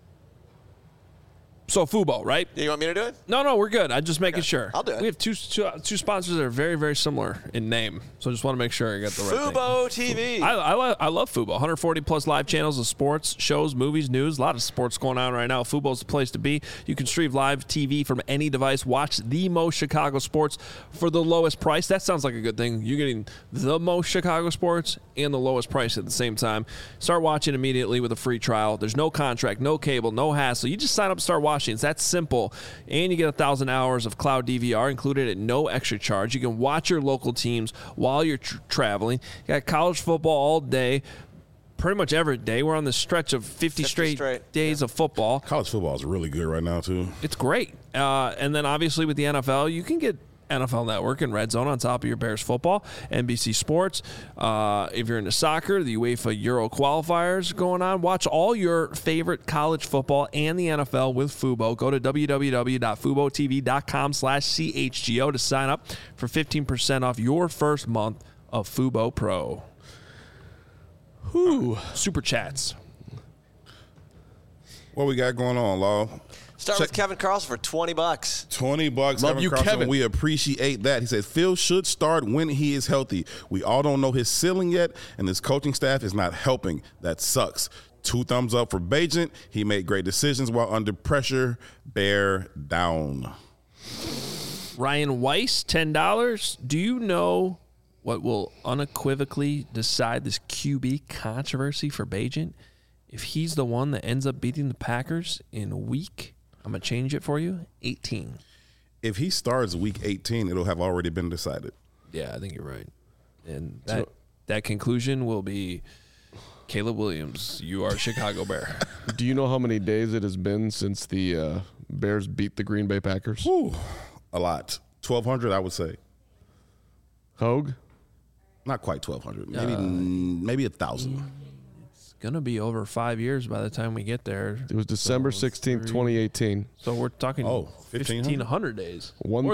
So Fubo, right? You want me to do it? No, we're good. I'm just making sure. I'll do it. We have two sponsors that are very, very similar in name, so I just want to make sure I got the right Fubo thing. TV. I love Fubo. 140 plus live channels of sports, shows, movies, news. A lot of sports going on right now. Fubo's the place to be. You can stream live TV from any device. Watch the most Chicago sports for the lowest price. That sounds like a good thing. You're getting the most Chicago sports and the lowest price at the same time. Start watching immediately with a free trial. There's no contract, no cable, no hassle. You just sign up and start watching. It's that simple. And you get 1,000 hours of cloud DVR included at no extra charge. You can watch your local teams while you're traveling. You got college football all day, pretty much every day. We're on the stretch of 50 straight days of football. College football is really good right now, too. It's great. And then obviously with the NFL, you can get NFL Network and Red Zone on top of your Bears football, NBC Sports. If you're into soccer, the UEFA Euro qualifiers going on. Watch all your favorite college football and the NFL with Fubo. Go to www.fubotv.com/CHGO to sign up for 15% off your first month of Fubo Pro. Super chats. What we got going on, Law? Start with Kevin Carlson for $20. $20. Love you, Kevin. We appreciate that. He says Phil should start when he is healthy. We all don't know his ceiling yet, and his coaching staff is not helping. That sucks. 2 thumbs up for Bagent. He made great decisions while under pressure. Bear down. Ryan Weiss, $10. Do you know what will unequivocally decide this QB controversy for Bagent? If he's the one that ends up beating the Packers in week, I'm going to change it for you, 18. If he starts week 18, it'll have already been decided. Yeah, I think you're right. And that conclusion will be Caleb Williams, you are a Chicago Bear. Do you know how many days it has been since the Bears beat the Green Bay Packers? Ooh, a lot. 1,200, I would say. Hogue? Not quite 1,200. Maybe 1,000. Going to be over 5 years by the time we get there. It was December 16th, 2018. So we're talking 1,500 days.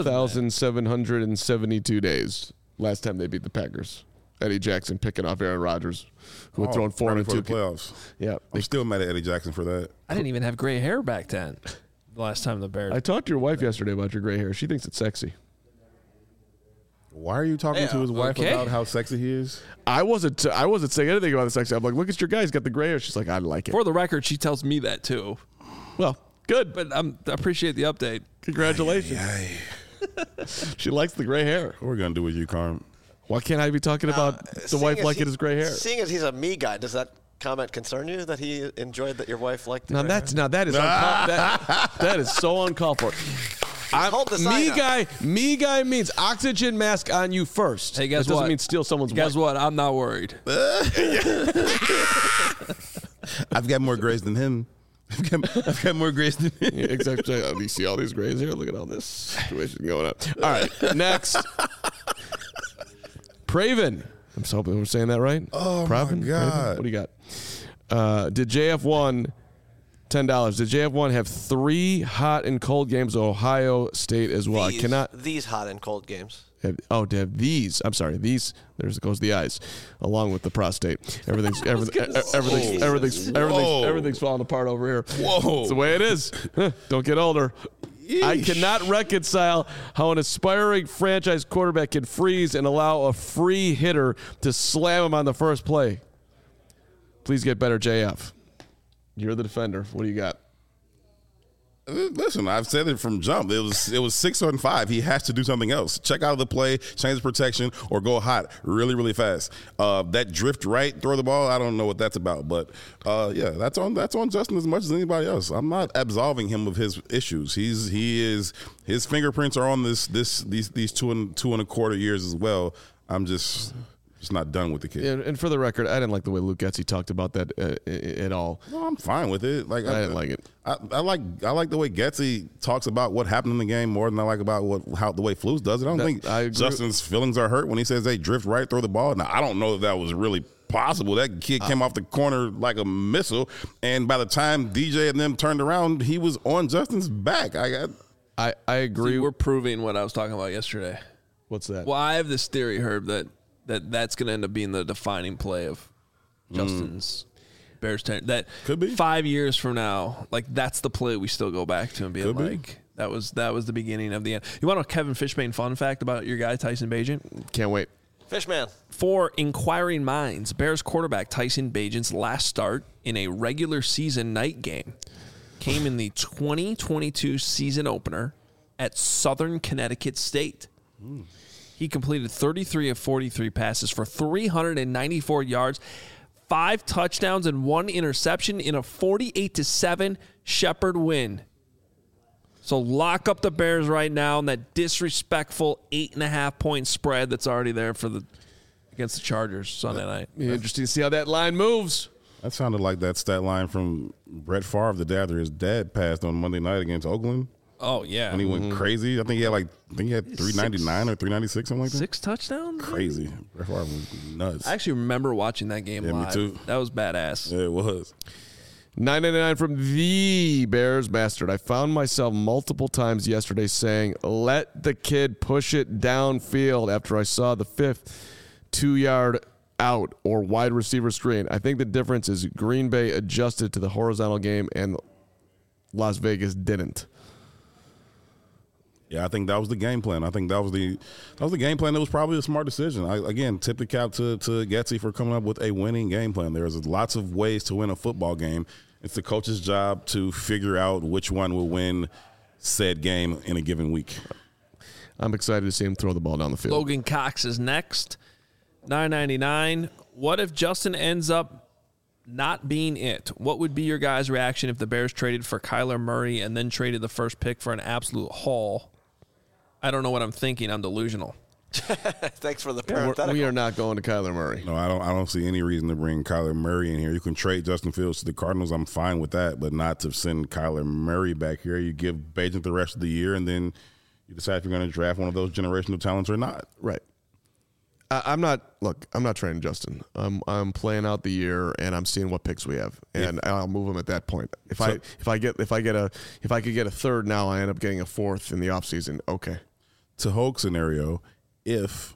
1,772 days last time they beat the Packers. Eddie Jackson picking off Aaron Rodgers, who had thrown 4 in 2 playoffs. Yeah, I'm still mad at Eddie Jackson for that. I didn't even have gray hair back then. The last time the Bears. I talked to your wife yesterday about your gray hair. She thinks it's sexy. Why are you talking to his wife about how sexy he is? I wasn't saying anything about the sexy. I'm like, look at your guy. He's got the gray hair. She's like, I like it. For the record, she tells me that too. Well, good. But I appreciate the update. Congratulations. She likes the gray hair. What are we going to do with you, Carm? Why can't I be talking about the wife liking his gray hair? Seeing as he's a me guy, does that comment concern you that he enjoyed that your wife liked the Now gray hair? that is that is so uncalled for. Hold the sign up. Me guy means oxygen mask on you first. Hey, guess that doesn't what? mean steal someone's Guess wife. what? I'm not worried. I've got more grays than him. I've got more grays than him. Yeah, exactly. You see all these grays here? Look at all this situation going on. All right, next. Praven. I'm so hoping we're saying that right. Oh, Praven? my God. Praven? What do you got? Did JF1, $10. Did JF1 have 3 hot and cold games at Ohio State as well? I cannot. These hot and cold games. To have these. I'm sorry. These. There goes the eyes, along with the prostate. Everything's falling apart over here. Whoa. It's the way it is. Don't get older. I cannot reconcile how an aspiring franchise quarterback can freeze and allow a free hitter to slam him on the first play. Please get better, JF. You're the defender. What do you got? Listen, I've said it from jump. It was 6 on 5. He has to do something else. Check out of the play, change the protection, or go hot really, really fast. That drift right, throw the ball. I don't know what that's about, but that's on Justin as much as anybody else. I'm not absolving him of his issues. His fingerprints are on these 2.25 years as well. I'm just not done with the kid. And for the record, I didn't like the way Luke Getsy talked about that at all. No, I'm fine with it. Like I didn't like it. I like the way Getsy talks about what happened in the game more than I like about the way Flus does it. I don't think Justin's feelings are hurt when he says they drift right, throw the ball. Now I don't know if that was really possible. That kid came off the corner like a missile, and by the time DJ and them turned around, he was on Justin's back. I agree. See, we're proving what I was talking about yesterday. What's that? Well, I have this theory, Herb, that's going to end up being the defining play of Justin's Bears tenure. That could be 5 years from now, like that's the play we still go back to and being like, that was the beginning of the end. You want a Kevin Fishbane fun fact about your guy Tyson Bagent? Can't wait. Fishman. For inquiring minds, Bears quarterback Tyson Bagent's last start in a regular season night game came in the 2022 season opener at Southern Connecticut State. He completed 33 of 43 passes for 394 yards, 5 touchdowns, and 1 interception in a 48-7 Shepherd win. So lock up the Bears right now in that disrespectful 8.5-point spread that's already there against the Chargers Sunday night. Interesting to see how that line moves. That sounded like that stat line from Brett Favre the day after his dad passed on Monday night against Oakland. Oh, yeah. When he went crazy. I think he had 399 or 396, something like that. 6 touchdowns? Crazy. Brett Favre was nuts. I actually remember watching that game live. Me too. That was badass. Yeah, it was. $9.99 from the Bears Bastard. I found myself multiple times yesterday saying, let the kid push it downfield after I saw the 5th 2-yard out or wide receiver screen. I think the difference is Green Bay adjusted to the horizontal game and Las Vegas didn't. Yeah, I think that was the game plan. I think that was the game plan. That was probably a smart decision. Again, tip the cap to Getsy for coming up with a winning game plan. There's lots of ways to win a football game. It's the coach's job to figure out which one will win said game in a given week. I'm excited to see him throw the ball down the field. Logan Cox is next. $9.99. What if Justin ends up not being it? What would be your guys' reaction if the Bears traded for Kyler Murray and then traded the first pick for an absolute haul? I don't know what I'm thinking. I'm delusional. Thanks for the parenthetical. We are not going to Kyler Murray. No, I don't see any reason to bring Kyler Murray in here. You can trade Justin Fields to the Cardinals. I'm fine with that, but not to send Kyler Murray back here. You give Bagent the rest of the year, and then you decide if you're going to draft one of those generational talents or not. Right. I'm not trading Justin. I'm playing out the year and I'm seeing what picks we have, and I'll move him at that point. If I could get a third now, I end up getting a fourth in the offseason. Okay. To Hogue scenario, if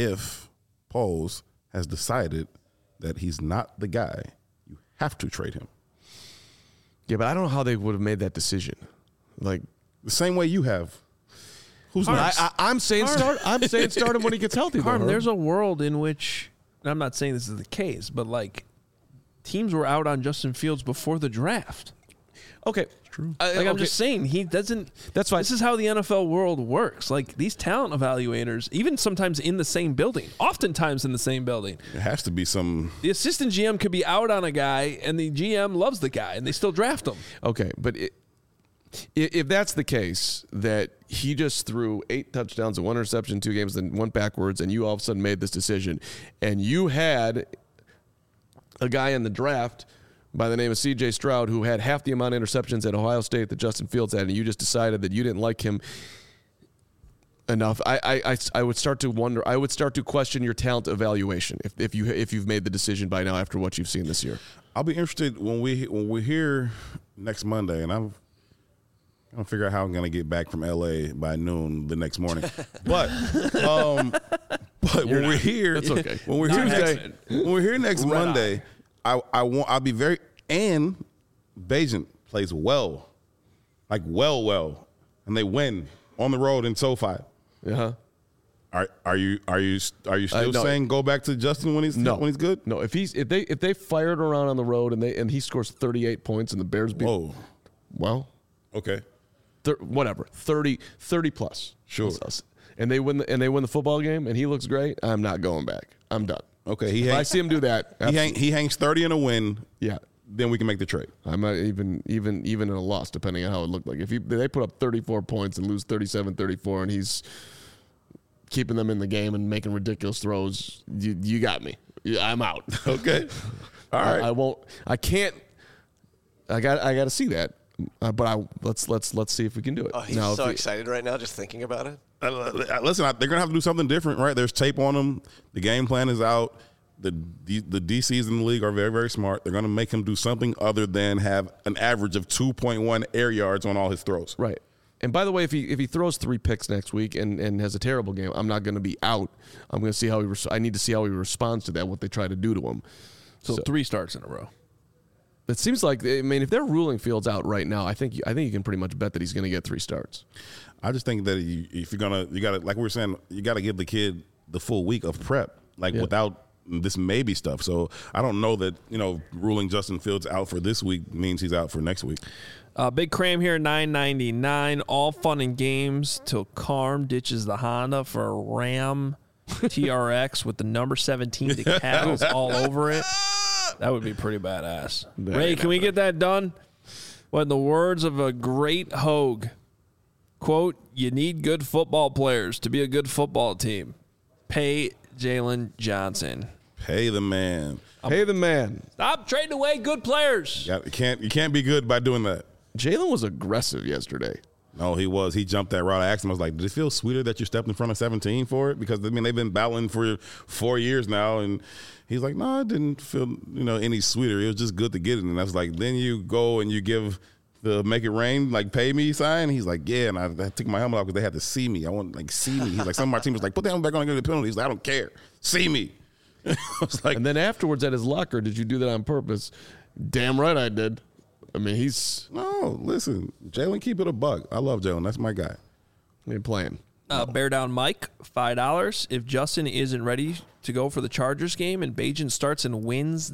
Poles has decided that he's not the guy, you have to trade him. Yeah, but I don't know how they would have made that decision. Like the same way you have. Who's next? I'm saying start. I'm saying start him when he gets healthy. Carm, there's a world in which, and I'm not saying this is the case, but like teams were out on Justin Fields before the draft. Okay. True. I'm just saying, he doesn't. That's fine. This is how the NFL world works. Like, these talent evaluators, even sometimes in the same building, oftentimes in the same building. It has to be some. The assistant GM could be out on a guy, and the GM loves the guy, and they still draft him. Okay, but if that's the case, that he just threw 8 touchdowns and 1 interception in 2 games, then went backwards, and you all of a sudden made this decision, and you had a guy in the draft by the name of C.J. Stroud who had half the amount of interceptions at Ohio State that Justin Fields had, and you just decided that you didn't like him enough, I would start to wonder. I would start to question your talent evaluation if you've made the decision by now after what you've seen this year. I'll be interested when we're here next Monday, and I'm gonna figure out how I'm gonna get back from LA by noon the next morning. But when we're here, that's okay. When we're here next Monday, I'll be very, and Bagent plays well, like well, and they win on the road in SoFi. Uh-huh. Are you still no. saying go back to Justin when he's good? No, if they fired around on the road and he scores 38 points and the Bears beat, well, okay, whatever, 30 plus, sure, and they win the football game and he looks great, I'm not going back. I'm done. Okay, if I see him do that, he hangs 30 in a win. Yeah, then we can make the trade. I'm not even in a loss, depending on how it looked like. If they put up 34 points and lose 37-34, and he's keeping them in the game and making ridiculous throws, you got me. I'm out. Okay, all right. I won't. I can't. I got to see that. But let's see if we can do it. Oh, he's so excited right now just thinking about it. Listen, they're gonna have to do something different, right? There's tape on them. The game plan is out. The DCs in the league are very, very smart. They're gonna make him do something other than have an average of 2.1 air yards on all his throws. Right. And by the way, if he throws 3 picks next week and has a terrible game, I'm not going to be out. I'm going to see how I need to see how he responds to that, what they try to do to him. So 3 starts in a row. It seems like, I mean, if they're ruling Fields out right now, I think you can pretty much bet that he's going to get 3 starts. I just think that if you got to, like we were saying, you got to give the kid the full week of prep, without this maybe stuff. So I don't know that, ruling Justin Fields out for this week means he's out for next week. Big Cram here, $9.99. All fun and games till Carm ditches the Honda for a Ram TRX with the number 17 decals all over it. That would be pretty badass. Ray, can we get that done? Well, in the words of a great Hogue, quote, "You need good football players to be a good football team. Pay Jalen Johnson." Pay the man. Pay the man. Stop trading away good players. Yeah, you can't be good by doing that. Jalen was aggressive yesterday. No, he was. He jumped that route. I asked him, I was like, did it feel sweeter that you stepped in front of 17 for it? Because, they've been battling for 4 years now. And he's like, no, it didn't feel, any sweeter. It was just good to get it. And I was like, then you go and you give the make it rain, pay me sign. He's like, yeah. And I took my helmet off because they had to see me. I want, see me. He's like, some of my team was like, put the helmet back on and get the penalty. He's like, I don't care. See me. I was like, and then afterwards at his locker, did you do that on purpose? Damn right I did. I mean, no, listen, Jalen, keep it a buck. I love Jalen. That's my guy. They're playing. Bear Down Mike, $5. If Justin isn't ready to go for the Chargers game and Bagent starts and wins,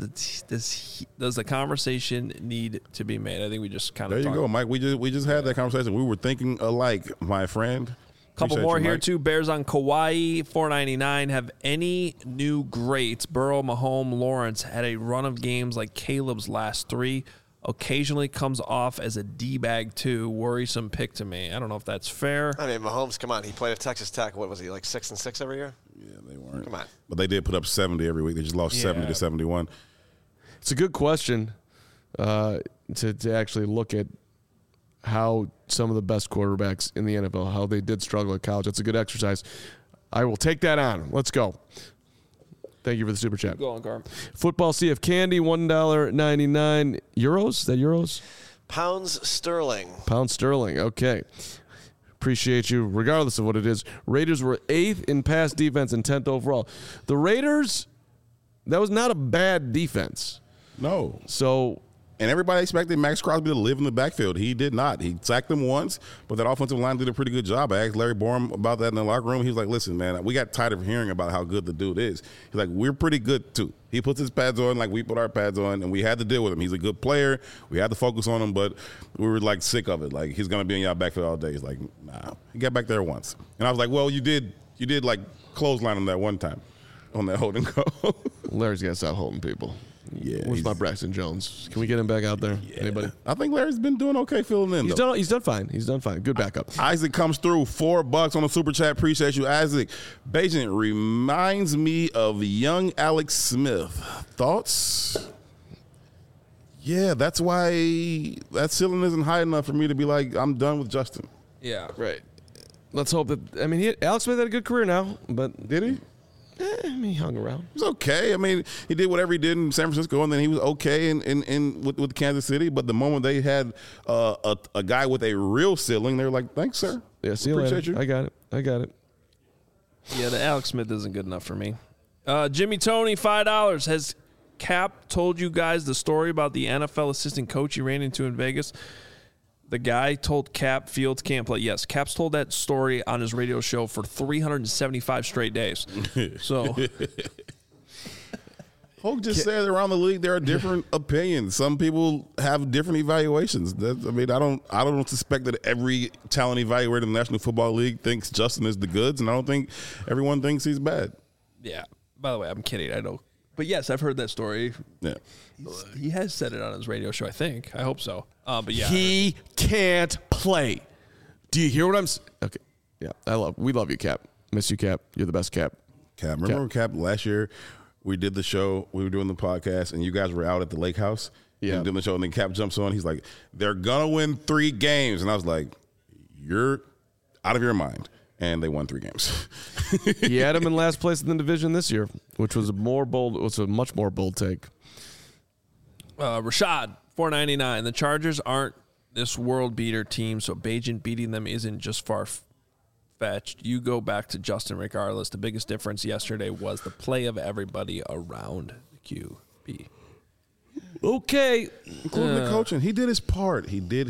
does the conversation need to be made? I think we just kind of There you go, Mike. We just had that conversation. We were thinking alike, my friend. Couple more here, too. Bears on Kauai, $4.99. Have any new greats, Burrow, Mahomes, Lawrence, had a run of games like Caleb's last 3? Occasionally comes off as a D-bag, too. Worrisome pick to me. I don't know if that's fair. I mean, Mahomes, come on. He played at Texas Tech. What was he, 6-6 every year? Yeah, they weren't. Come on. But they did put up 70 every week. They just lost 70 to 71. It's a good question to actually look at how some of the best quarterbacks in the NFL, how they did struggle at college. It's a good exercise. I will take that on. Let's go. Thank you for the super chat. Go on, Carm. Football CF Candy, $1.99. Euros? Is that euros? Pounds sterling. Pound sterling. Okay. Appreciate you, regardless of what it is. Raiders were 8th in pass defense and 10th overall. The Raiders, that was not a bad defense. No. So, And everybody expected Max Crosby to live in the backfield. He did not. He sacked them once, but that offensive line did a pretty good job. I asked Larry Borum about that in the locker room. He was like, listen, man, we got tired of hearing about how good the dude is. He's like, we're pretty good, too. He puts his pads on like we put our pads on, and we had to deal with him. He's a good player. We had to focus on him, but we were, like, sick of it. Like, he's going to be in y'all backfield all day. He's like, nah. He got back there once. And I was like, well, you did like, clothesline him that one time on that hold and go. Larry's got to stop holding people. Yeah, Where's my Braxton Jones? Can we get him back out there? Yeah. Anybody? I think Larry's been doing okay filling in. He's done fine. He's done fine. Good backup. Isaac comes through, $4 on the super chat. Appreciate you, Isaac. Bajan reminds me of young Alex Smith. Thoughts? Yeah, that's why that ceiling isn't high enough for me to be like, I'm done with Justin. Yeah. Right. Let's hope that. I mean, Alex Smith had a good career now, but Did he? he hung around. He was okay. I mean, he did whatever he did in San Francisco, and then he was okay with Kansas City. But the moment they had a guy with a real ceiling, they were like, "Thanks, sir. Yeah, see you Appreciate later. you. I got it. Yeah, the Alex Smith isn't good enough for me. Jimmy Tony, $5. Has Cap told you guys the story about the NFL assistant coach he ran into in Vegas? The guy told Cap Fields can't play. Yes, Cap's told that story on his radio show for 375 straight days. So Hoke just said around the league there are different opinions. Some people have different evaluations. I don't suspect that every talent evaluator in the National Football League thinks Justin is the goods, and I don't think everyone thinks he's bad. yeah. By the way, I'm kidding. I know, but yes, I've heard that story. Yeah. He has said it on his radio show. I think. I hope so. But yeah, He can't play. Do you hear what I'm saying? Okay. Yeah, we love you, Cap. Miss you, Cap. You're the best, Cap. Cap. Remember when Cap last year we did the show, we were doing the podcast, and you guys were out at the lake house? Yeah. And doing the show, and then Cap jumps on. He's like, they're going to win 3 games. And I was like, you're out of your mind. And they won 3 games. He had him in last place in the division this year, which was a much more bold take. Rashad, $4.99. The Chargers aren't this world beater team, so Bajan beating them isn't just far-fetched. You go back to Justin regardless. The biggest difference yesterday was the play of everybody around the QB. Okay. Including the coaching. He did his part.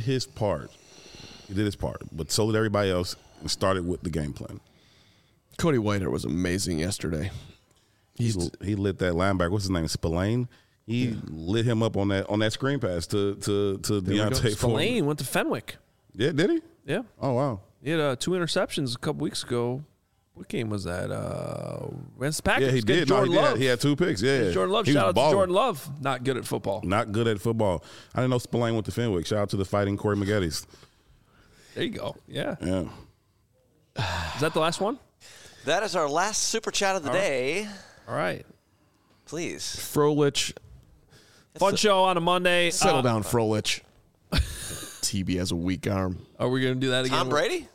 But so did everybody else, and started with the game plan. Cody Whitehair was amazing yesterday. He lit that linebacker. What's his name? Spillane. He lit him up on that screen pass to Deontay Spillane went to Fenwick. Yeah, did he? Yeah. Oh, wow. He had 2 interceptions a couple weeks ago. What game was that? Against the Packers. Yeah, he did. Jordan Love. He had 2 picks. Yeah. Jordan Love. He Shout was out balling. to Jordan Love. Not good at football. Not good at football. I didn't know Spillane went to Fenwick. Shout out to the Fighting Corey Maggottis. There you go. Yeah. Yeah. Is that the last one? That is our last super chat of the day. All right. Please. Frolich. Fun show on a Monday. Settle down, Frolich. TB has a weak arm. Are we going to do that again? Tom Brady?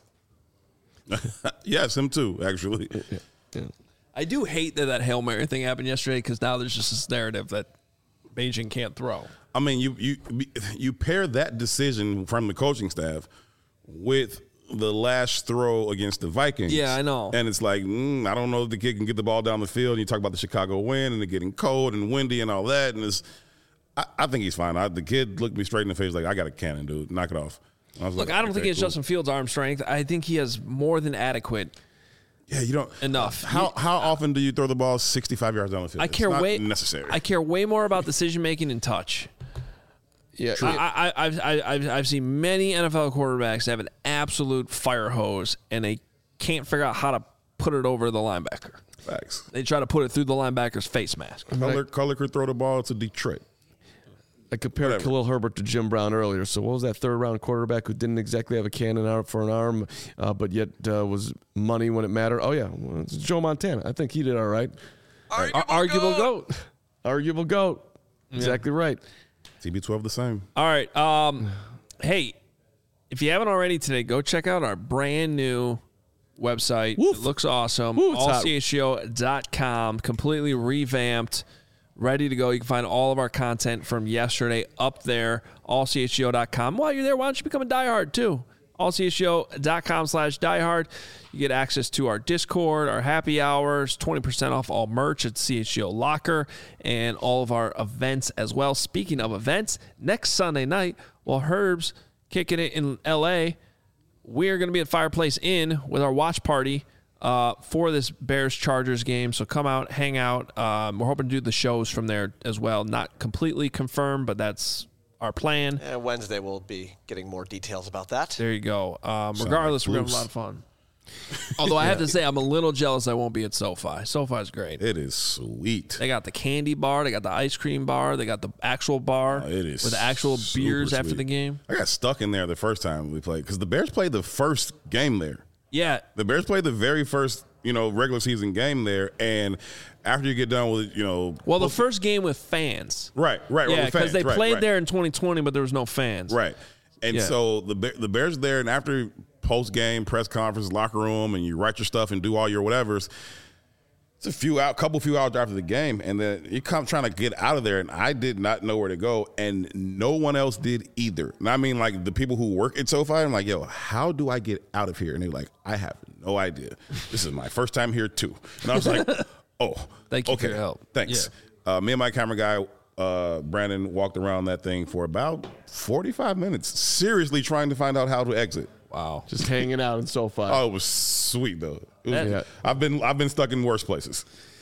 Yes, him too, actually. Yeah. I do hate that Hail Mary thing happened yesterday because now there's just this narrative that Beijing can't throw. I mean, you pair that decision from the coaching staff with the last throw against the Vikings. Yeah, I know. And it's like, I don't know if the kid can get the ball down the field. And you talk about the Chicago wind and it getting cold and windy and all that. And I think he's fine. The kid looked me straight in the face like, I got a cannon, dude. Knock it off. I was Look, like, I don't think okay, he has cool. Justin Fields' arm strength. I think he has more than adequate. Yeah, you don't Enough. How often do you throw the ball 65 yards down the field? I care it's not way necessary. I care way more about decision making and touch. Yeah. I've seen many NFL quarterbacks have an absolute fire hose and they can't figure out how to put it over the linebacker. Facts. They try to put it through the linebacker's face mask. Color could throw the ball to Detroit. I compared Whatever. Khalil Herbert to Jim Brown earlier. So what was that third-round quarterback who didn't exactly have a cannon out for an arm, but yet was money when it mattered? Oh, yeah. Well, it's Joe Montana. I think he did all right. Arguable GOAT. Arguable GOAT. Exactly right. TB12 the same. All right. Hey, if you haven't already today, go check out our brand new website. Woof. It looks awesome. Woo, it's hot. allchgo.com, completely revamped, ready to go. You can find all of our content from yesterday up there, allchgo.com. While you're there, why don't you become a diehard too? allchgo.com/diehard. You get access to our Discord, our happy hours, 20% off all merch at CHGO Locker, and all of our events as well. Speaking of events, next Sunday night, while Herb's kicking it in L.A., we're going to be at Fireplace Inn with our watch party for this Bears-Chargers game. So come out, hang out. We're hoping to do the shows from there as well. Not completely confirmed, but that's our plan. Wednesday we'll be getting more details about that. There you go. Regardless, we're going to have a lot of fun. Although I have to say, I'm a little jealous I won't be at SoFi. SoFi's great. It is sweet. They got the candy bar. They got the ice cream bar. They got the actual bar It is with the actual beers after sweet. the game. I got stuck in there the first time we played because the Bears played the first game there. Yeah. The Bears played the very first, regular season game there, and after you get done with, Well, the first game with fans. right, Yeah, with fans, because they played right. there in 2020, but there was no fans. Right. And Yeah. so the Bears there, and after post-game press conference, locker room, and you write your stuff and do all your whatevers, it's a couple few hours after the game, and then you come trying to get out of there, and I did not know where to go, and no one else did either. And I mean, like, the people who work at SoFi, I'm like, yo, how do I get out of here? And they're like, I have no idea. This is my first time here, too. And I was like, oh, Thank you okay, for your help. Thanks. Me and my camera guy, Brandon, walked around that thing for about 45 minutes, seriously trying to find out how to exit. Wow. Just hanging out in SoFi. Oh, it was sweet though. It was, Yeah. I've been stuck in worse places.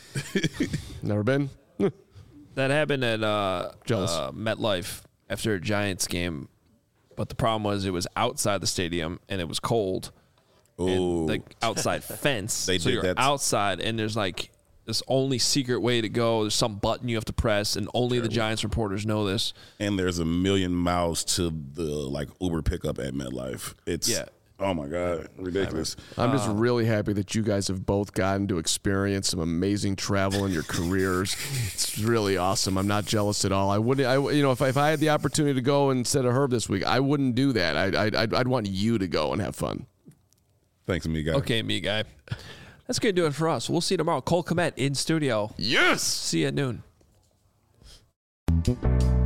Never been? That happened at Jealous. MetLife after a Giants game, but the problem was it was outside the stadium and it was cold. Ooh. And the outside fence. They so did you're that. outside, and there's like this only secret way to go. There's some button you have to press, and only the Giants reporters know this. And there's 1,000,000 miles to the Uber pickup at MetLife. It's oh my God, ridiculous. I'm just really happy that you guys have both gotten to experience some amazing travel in your careers. It's really awesome. I'm not jealous at all. I wouldn't. If I had the opportunity to go instead of Herb this week, I wouldn't do that. I'd want you to go and have fun. Thanks, me guy. Okay, me guy. That's going to do it for us. We'll see you tomorrow. Cole Kmet in studio. Yes. See you at noon.